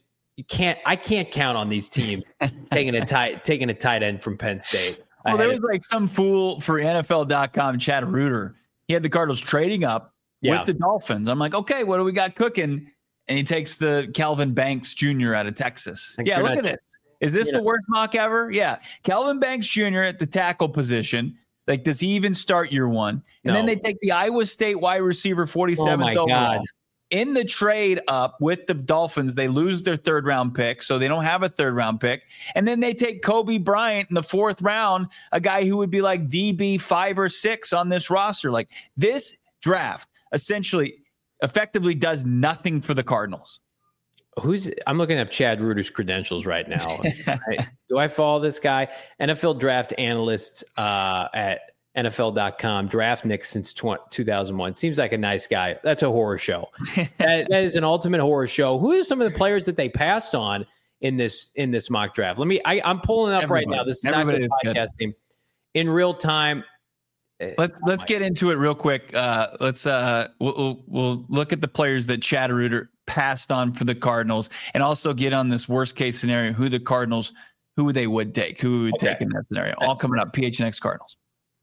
I can't count on these teams taking a tight end from Penn State. Well, there was like some fool for NFL.com, Chad Reuter. He had the Cardinals trading up with the Dolphins. I'm like, okay, what do we got cooking? And he takes the Calvin Banks Jr. out of Texas. Look at this. Is this the worst mock ever? Yeah. Calvin Banks Jr. at the tackle position. Like, does he even start year one? And then they take the Iowa State wide receiver 47th overall. God. In the trade up with the Dolphins, they lose their 3rd round pick, so they don't have a 3rd round pick. And then they take Kobe Bryant in the 4th round, a guy who would be like DB 5 or 6 on this roster. Like this draft effectively does nothing for the Cardinals. I'm looking up Chad Reuter's credentials right now. Do I follow this guy? NFL draft analyst at NFL.com, draft Nick since 2001. Seems like a nice guy. That's a horror show. that is an ultimate horror show. Who are some of the players that they passed on in this mock draft. I'm pulling up right now. This is not good podcasting in real time. Let's get into it real quick. We'll look at the players that Chad Reuter passed on for the Cardinals, and also get on this worst case scenario, who they would take, who would take in that scenario. All coming up. PHNX Cardinals.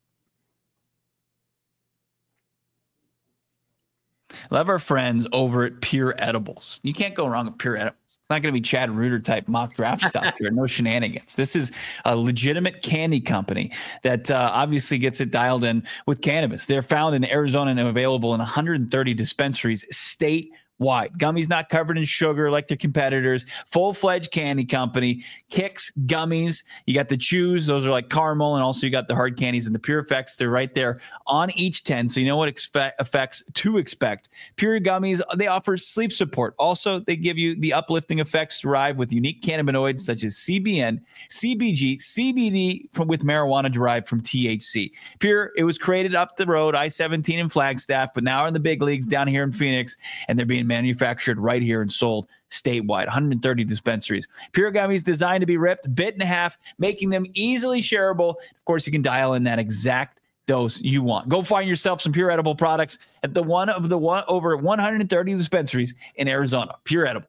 Love our friends over at Pure Edibles. You can't go wrong with Pure Edibles. It's not going to be Chad Reuter type mock draft stuff here. No shenanigans. This is a legitimate candy company that obviously gets it dialed in with cannabis. They're found in Arizona and available in 130 dispensaries statewide. Gummies not covered in sugar like their competitors. Full-fledged candy company. Kicks, gummies. You got the chews. Those are like caramel. And also you got the hard candies and the Pure Effects. They're right there on each 10. So you know what effects to expect. Pure gummies, they offer sleep support. Also, they give you the uplifting effects derived with unique cannabinoids such as CBN, CBG, CBD with marijuana derived from THC. Pure, it was created up the road, I-17 in Flagstaff, but now are in the big leagues down here in Phoenix, and they're being manufactured right here and sold statewide, 130 dispensaries. Pure gummies designed to be ripped, bit in half, making them easily shareable. Of course, you can dial in that exact dose you want. Go find yourself some Pure Edible products at over 130 dispensaries in Arizona. Pure Edible.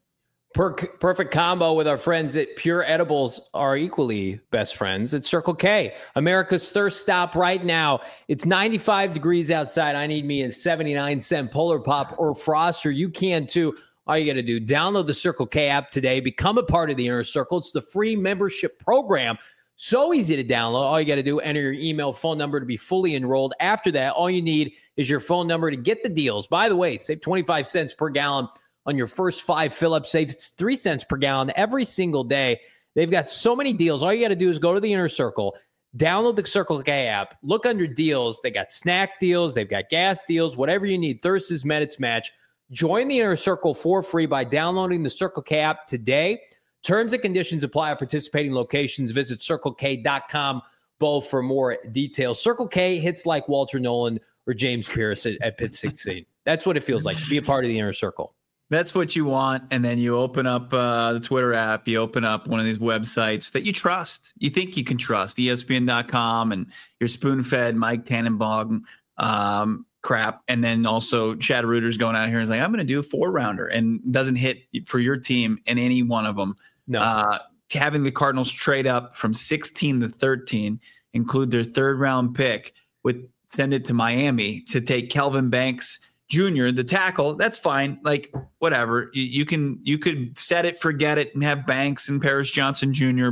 Perfect combo with our friends at Pure Edibles, are equally best friends at Circle K, America's thirst stop right now. It's 95 degrees outside. I need me a 79-cent Polar Pop or Froster. You can too. All you got to do, download the Circle K app today. Become a part of the Inner Circle. It's the free membership program. So easy to download. All you got to do, enter your email, phone number to be fully enrolled. After that, all you need is your phone number to get the deals. By the way, save 25 cents per gallon on your first 5 fill-ups. Save 3 cents per gallon every single day. They've got so many deals. All you got to do is go to the Inner Circle, download the Circle K app, look under deals. They got snack deals. They've got gas deals, whatever you need. Thirst is met, it's match. Join the Inner Circle for free by downloading the Circle K app today. Terms and conditions apply at participating locations. Visit CircleK.com for more details. Circle K hits like Walter Nolan or James Pierce at Pit 16. That's what it feels like to be a part of the Inner Circle. That's what you want. And then you open up the Twitter app. You open up one of these websites that you trust. You think you can trust. ESPN.com and your spoon-fed Mike Tannenbaum crap. And then also Chad Reuter's going out here and is like, I'm going to do a 4-rounder, and doesn't hit for your team in any one of them. No. Having the Cardinals trade up from 16 to 13, include their 3rd-round pick, send it to Miami to take Kelvin Banks Jr., the tackle. That's fine. Like, whatever. You could set it, forget it, and have Banks and Paris Johnson Jr.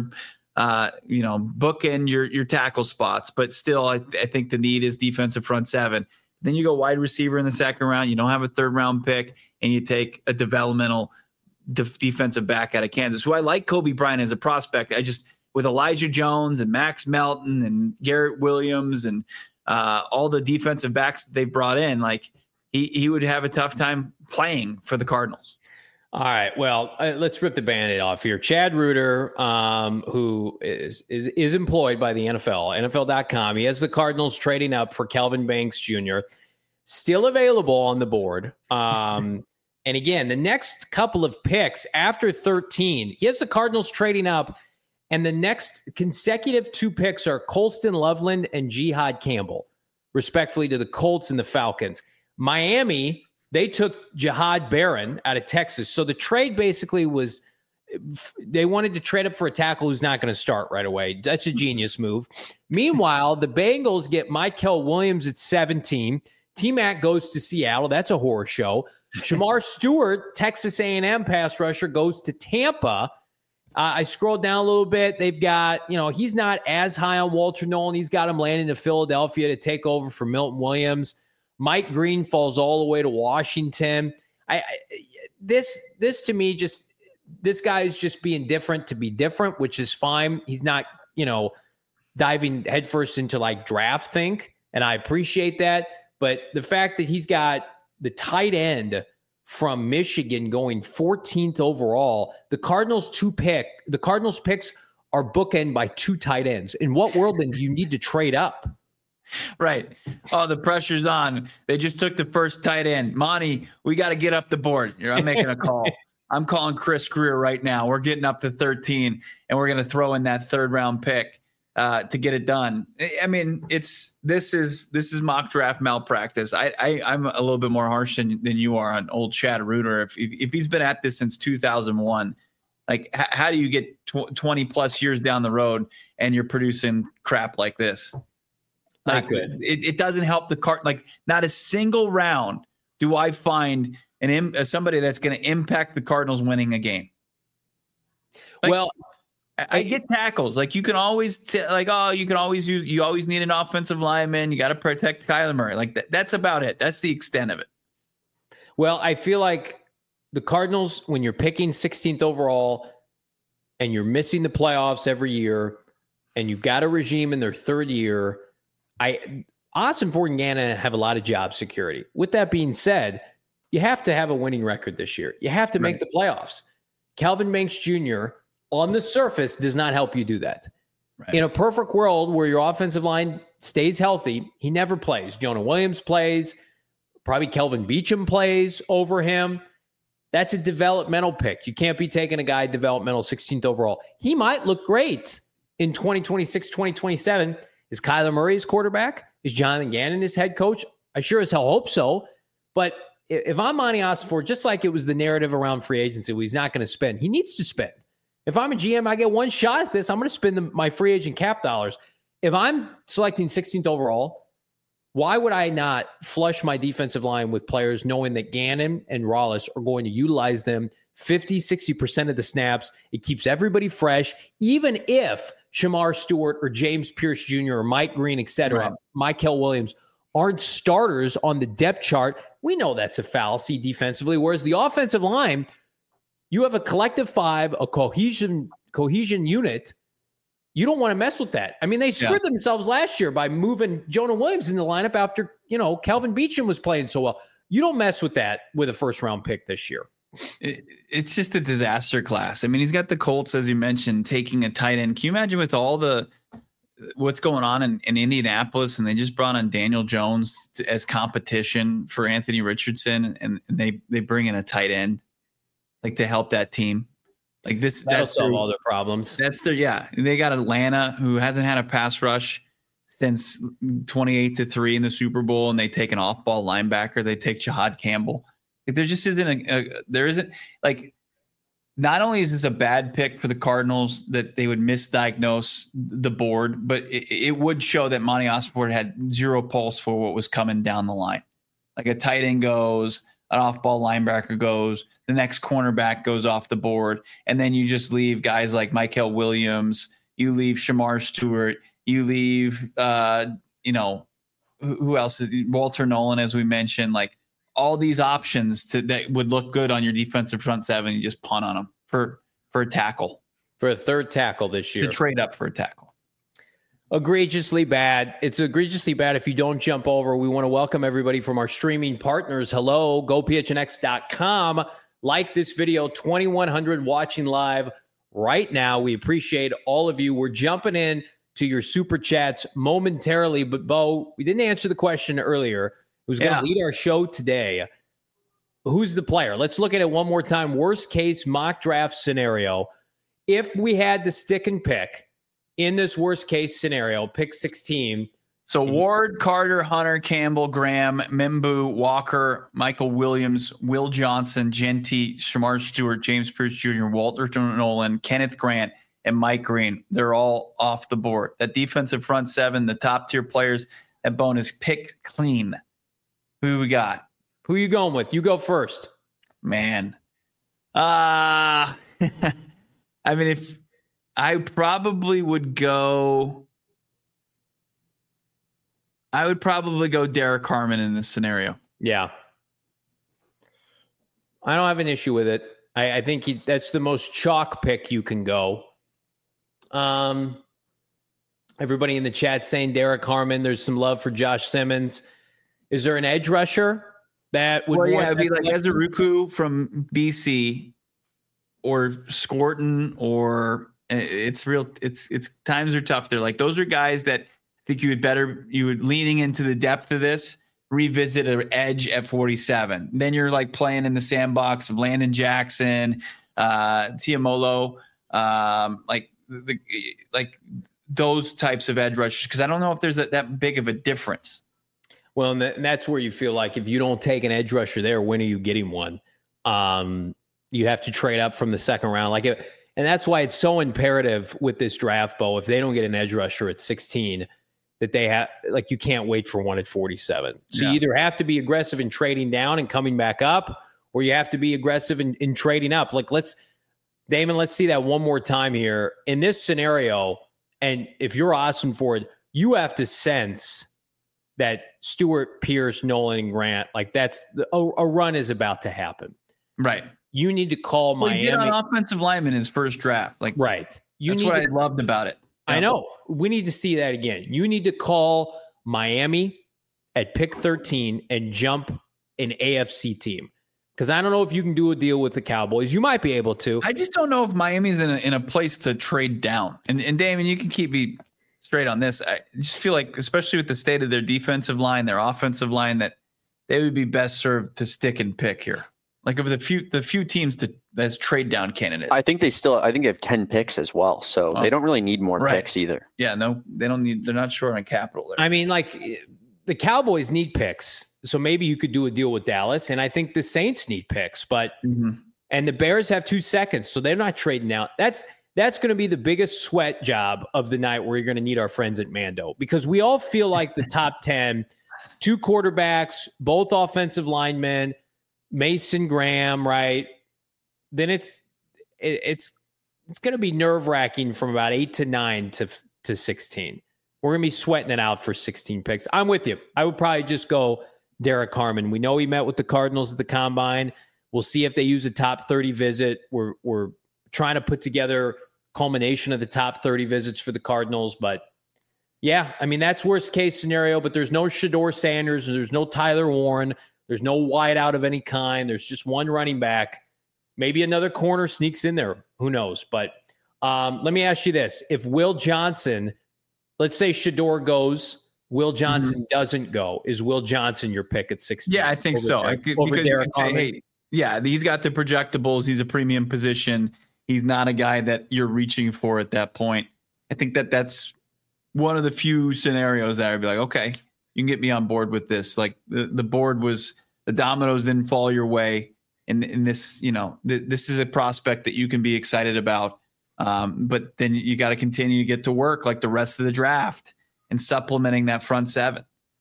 Bookend your tackle spots. But still, I think the need is defensive front 7. Then you go wide receiver in the 2nd round. You don't have a 3rd-round pick, and you take a developmental defensive back out of Kansas, who I like Kobe Bryant as a prospect. With Elijah Jones and Max Melton and Garrett Williams and all the defensive backs that they brought in, like, he would have a tough time playing for the Cardinals. All right. Well, let's rip the Band-Aid off here. Chad Reuter, who is employed by the NFL, NFL.com. He has the Cardinals trading up for Kelvin Banks Jr., still available on the board. And again, the next couple of picks after 13, he has the Cardinals trading up, and the next consecutive 2 picks are Colston Loveland and Jihad Campbell, respectfully, to the Colts and the Falcons. Miami, they took Jihad Barron out of Texas. So the trade basically was they wanted to trade up for a tackle who's not going to start right away. That's a genius move. Meanwhile, the Bengals get Mykel Williams at 17. T-Mac goes to Seattle. That's a horror show. Shamar Stewart, Texas A&M pass rusher, goes to Tampa. I scrolled down a little bit. They've got, he's not as high on Walter Nolan. He's got him landing to Philadelphia to take over for Milton Williams. Mike Green falls all the way to Washington. This to me, this guy is just being different to be different, which is fine. He's not, diving headfirst into like draft think, and I appreciate that. But the fact that he's got the tight end from Michigan going 14th overall, the Cardinals picks are bookend by 2 tight ends. In what world then do you need to trade up? Right. Oh, the pressure's on. They just took the first tight end. Monty, we got to get up the board. I'm making a call. I'm calling Chris Greer right now. We're getting up to 13, and we're going to throw in that 3rd round pick to get it done. I mean, this is mock draft malpractice. I'm a little bit more harsh than you are on old Chad Reuter. If he's been at this since 2001, like how do you get 20 plus years down the road and you're producing crap like this? Not good. It doesn't help the card. Like not a single round do I find somebody that's going to impact the Cardinals winning a game. Like, well, I get tackles. Like you can always you always need an offensive lineman. You got to protect Kyler Murray. Like that's about it. That's the extent of it. Well, I feel like the Cardinals, when you're picking 16th overall and you're missing the playoffs every year and you've got a regime in their 3rd year, Austin Ford and Gannon have a lot of job security. With that being said, you have to have a winning record this year. You have to make the playoffs. Kelvin Banks Jr. on the surface does not help you do that. Right. In a perfect world where your offensive line stays healthy, he never plays. Jonah Williams plays. Probably Kelvin Beachum plays over him. That's a developmental pick. You can't be taking a guy developmental 16th overall. He might look great in 2026, 2027. Is Kyler Murray his quarterback? Is Jonathan Gannon his head coach? I sure as hell hope so. But if I'm Monty Ossenfort, just like it was the narrative around free agency, he's not going to spend. He needs to spend. If I'm a GM, I get one shot at this. I'm going to spend my free agent cap dollars. If I'm selecting 16th overall, why would I not flush my defensive line with players knowing that Gannon and Rollis are going to utilize them 50, 60% of the snaps? It keeps everybody fresh, even if Shamar Stewart or James Pierce Jr. or Mike Green, et cetera, Mykel Williams aren't starters on the depth chart. We know that's a fallacy defensively, whereas the offensive line, you have a collective 5, a cohesion unit. You don't want to mess with that. I mean, they screwed themselves last year by moving Jonah Williams in the lineup after, Kelvin Beachum was playing so well. You don't mess with that with a 1st round pick this year. It's just a disaster class. I mean, he's got the Colts, as you mentioned, taking a tight end. Can you imagine with all what's going on in Indianapolis, and they just brought on Daniel Jones as competition for Anthony Richardson, and they bring in a tight end like to help that team. Like that'll solve all their problems. They got Atlanta, who hasn't had a pass rush since 28-3 in the Super Bowl, and they take an off-ball linebacker. They take Jahad Campbell. Like there just isn't not only is this a bad pick for the Cardinals that they would misdiagnose the board, but it would show that Monty Ossenfort had zero pulse for what was coming down the line. Like a tight end goes, an off-ball linebacker goes, the next cornerback goes off the board, and then you just leave guys like Mykel Williams, you leave Shamar Stewart, you leave, who else? Walter Nolan, as we mentioned, like all these options that would look good on your defensive front 7, you just punt on them for a tackle. For a 3rd tackle this year. To trade up for a tackle. Egregiously bad. It's egregiously bad if you don't jump over. We want to welcome everybody from our streaming partners. Hello, GoPHNX.com. Like this video, 2,100 watching live right now. We appreciate all of you. We're jumping in to your super chats momentarily, but Bo, we didn't answer the question earlier. Who's going to lead our show today? Who's the player? Let's look at it one more time. Worst case mock draft scenario. If we had to stick and pick in this worst case scenario, pick 16. So Ward, Carter, Hunter, Campbell, Graham, Mimbu, Walker, Mykel Williams, Will Johnson, Genty, Shamar Stewart, James Pierce Jr., Walter Nolan, Kenneth Grant, and Mike Green. They're all off the board. That defensive front 7, the top tier players, that bonus pick clean. Who we got? Who are you going with? You go first. Man. I mean, if I probably would go... I would probably go Derek Harmon in this scenario. Yeah. I don't have an issue with it. I think that's the most chalk pick you can go. Everybody in the chat saying Derek Harmon. There's some love for Josh Simmons. Is there an edge rusher that would? Well, yeah, it'd be like Ezeruku from BC or Scorton, or it's times are tough. They're like, those are guys that I think you would leaning into the depth of this. revisit an edge at 47. Then you're like playing in the sandbox of Landon Jackson, Tiamolo, like those types of edge rushers, because I don't know if there's that big of a difference. Well, and that's where you feel like if you don't take an edge rusher there, when are you getting one? You have to trade up from the second round. And that's why it's so imperative with this draft, Bo, if they don't get an edge rusher at 16, that they have, like, you can't wait for one at 47. So you either have to be aggressive in trading down and coming back up, or you have to be aggressive in trading up. Like, Damon, let's see that one more time here. In this scenario, and if you're Austin Ford, you have to sense that Stewart, Pierce, Nolan, and Grant, like that's a run is about to happen. Right. You need to call Miami. He did on offensive lineman in his first draft. Like, right. That's what I loved about it. I know. We need to see that again. You need to call Miami at pick 13 and jump an AFC team. Because I don't know if you can do a deal with the Cowboys. You might be able to. I just don't know if Miami's in a place to trade down. And Damon, you can keep me straight on this. I just feel like, especially with the state of their defensive line, their offensive line, that they would be best served to stick and pick here. Like, of the few teams as trade down candidates. I think they have 10 picks as well. So they don't really need more picks either. Yeah, no, they don't need. They're not short on capital there. I mean, like, the Cowboys need picks. So maybe you could do a deal with Dallas. And I think the Saints need picks, and the Bears have 2 seconds. So they're not trading out. That's going to be the biggest sweat job of the night, where you're going to need our friends at Mando, because we all feel like the top 10, 2 quarterbacks, both offensive linemen, Mason Graham, right? Then it's going to be nerve-wracking from about 8 to 9 to 16. We're going to be sweating it out for 16 picks. I'm with you. I would probably just go Derek Harmon. We know he met with the Cardinals at the Combine. We'll see if they use a top 30 visit. We're trying to put together culmination of the top 30 visits for the Cardinals. But, yeah, I mean, that's worst case scenario. But there's no Shedeur Sanders. There's no Tyler Warren. There's no wideout of any kind. There's just one running back. Maybe another corner sneaks in there. Who knows? But let me ask you this. If Will Johnson, let's say Shedeur goes, Will Johnson doesn't go. Is Will Johnson your pick at 16? Yeah, I think so. Because Derek Harmon? Hey, yeah, he's got the projectables. He's a premium position. He's not a guy that you're reaching for at that point. I think that's one of the few scenarios that I'd be like, okay, you can get me on board with this. Like, the board was, the dominoes didn't fall your way. And this, this is a prospect that you can be excited about. But then you got to continue to get to work like the rest of the draft and supplementing that front seven.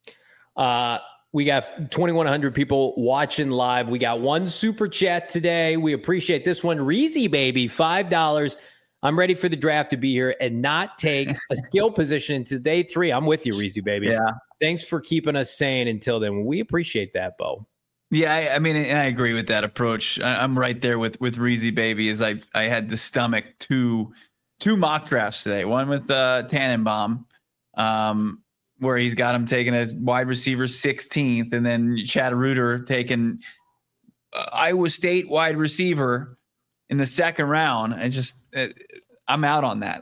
We got 2,100 people watching live. We got one super chat today. We appreciate this one. Reezy Baby, $5. I'm ready for the draft to be here and not take a skill position into day 3. I'm with you, Reezy Baby. Yeah. Thanks for keeping us sane until then. We appreciate that, Bo. Yeah, I mean, I agree with that approach. I'm right there with Reezy Baby. As I had the stomach two mock drafts today. One with Tannenbaum, where he's got him taking as wide receiver 16th, and then Chad Reuter taking Iowa State wide receiver in the second round. I just I'm out on that.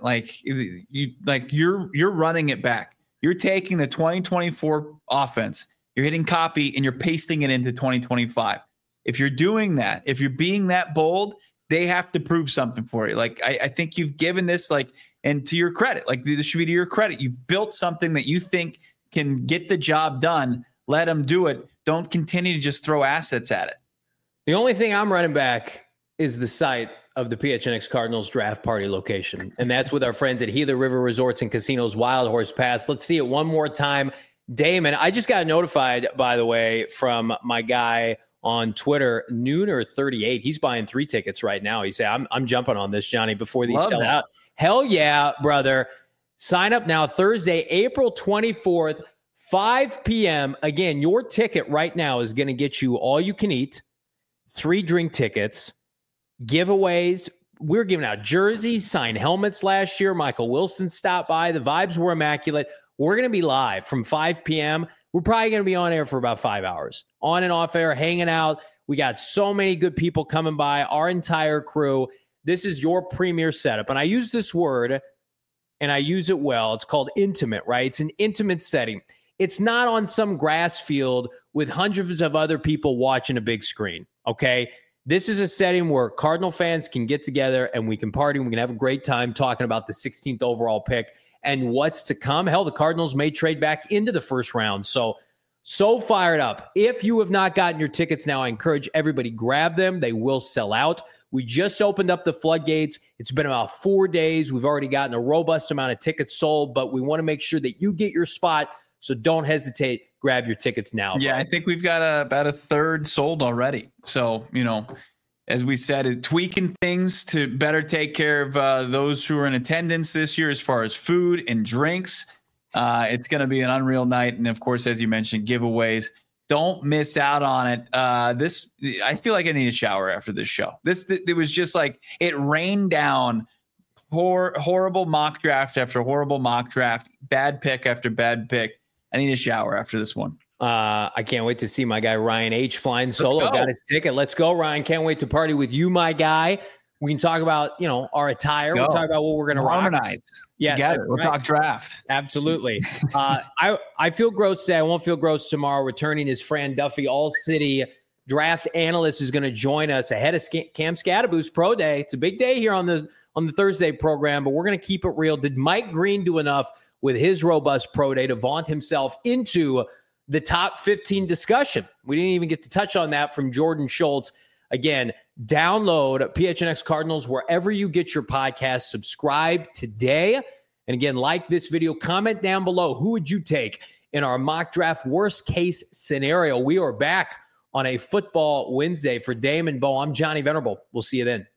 You're running it back. You're taking the 2024 offense. You're hitting copy and you're pasting it into 2025. If you're doing that, if you're being that bold, they have to prove something for you. Like, I think you've given this, and to your credit, this should be to your credit. You've built something that you think can get the job done. Let them do it. Don't continue to just throw assets at it. The only thing I'm running back is the site of the PHNX Cardinals draft party location. And that's with our friends at Gila River Resorts and Casinos Wild Horse Pass. Let's see it one more time. Damon, I just got notified, by the way, from my guy on Twitter, Nooner38. He's buying 3 tickets right now. He said, I'm jumping on this, Johnny, before these sell out. Hell yeah, brother. Sign up now, Thursday, April 24th, 5 p.m. Again, your ticket right now is going to get you all you can eat, 3 drink tickets, giveaways. We're giving out jerseys, signed helmets last year. Michael Wilson stopped by. The vibes were immaculate. We're going to be live from 5 p.m. We're probably going to be on air for about 5 hours, on and off air, hanging out. We got so many good people coming by, our entire crew. This is your premier setup. And I use this word, and I use it well. It's called intimate, right? It's an intimate setting. It's not on some grass field with hundreds of other people watching a big screen, okay? This is a setting where Cardinal fans can get together and we can party. We can have a great time talking about the 16th overall pick and what's to come. Hell, the Cardinals may trade back into the first round. So fired up. If you have not gotten your tickets now, I encourage everybody grab them. They will sell out. We just opened up the floodgates. It's been about 4 days. We've already gotten a robust amount of tickets sold, but we want to make sure that you get your spot. So don't hesitate. Grab your tickets now. Yeah, bro. I think we've got about a third sold already. So, as we said, tweaking things to better take care of those who are in attendance this year as far as food and drinks. It's going to be an unreal night. And, of course, as you mentioned, giveaways. Don't miss out on it. I feel like I need a shower after this show. It was just like it rained down horrible mock draft after horrible mock draft, bad pick after bad pick. I need a shower after this one. I can't wait to see my guy Ryan H flying solo. Got his ticket. Let's go, Ryan. Can't wait to party with you, my guy. We can talk about, our attire. We'll talk about what we're going to harmonize. Yeah, we'll talk draft. Absolutely. I feel gross today. I won't feel gross tomorrow. Returning is Fran Duffy, All City draft analyst, is going to join us ahead of Cam Scadaboo's Pro Day. It's a big day here on the Thursday program, but we're going to keep it real. Did Mike Green do enough with his robust Pro Day to vaunt himself into the top 15 discussion? We didn't even get to touch on that from Jordan Schultz. Again, download PHNX Cardinals wherever you get your podcast. Subscribe today. And again, like this video, comment down below. Who would you take in our mock draft worst case scenario? We are back on a football Wednesday. For Damon Bo, I'm Johnny Venerable. We'll see you then.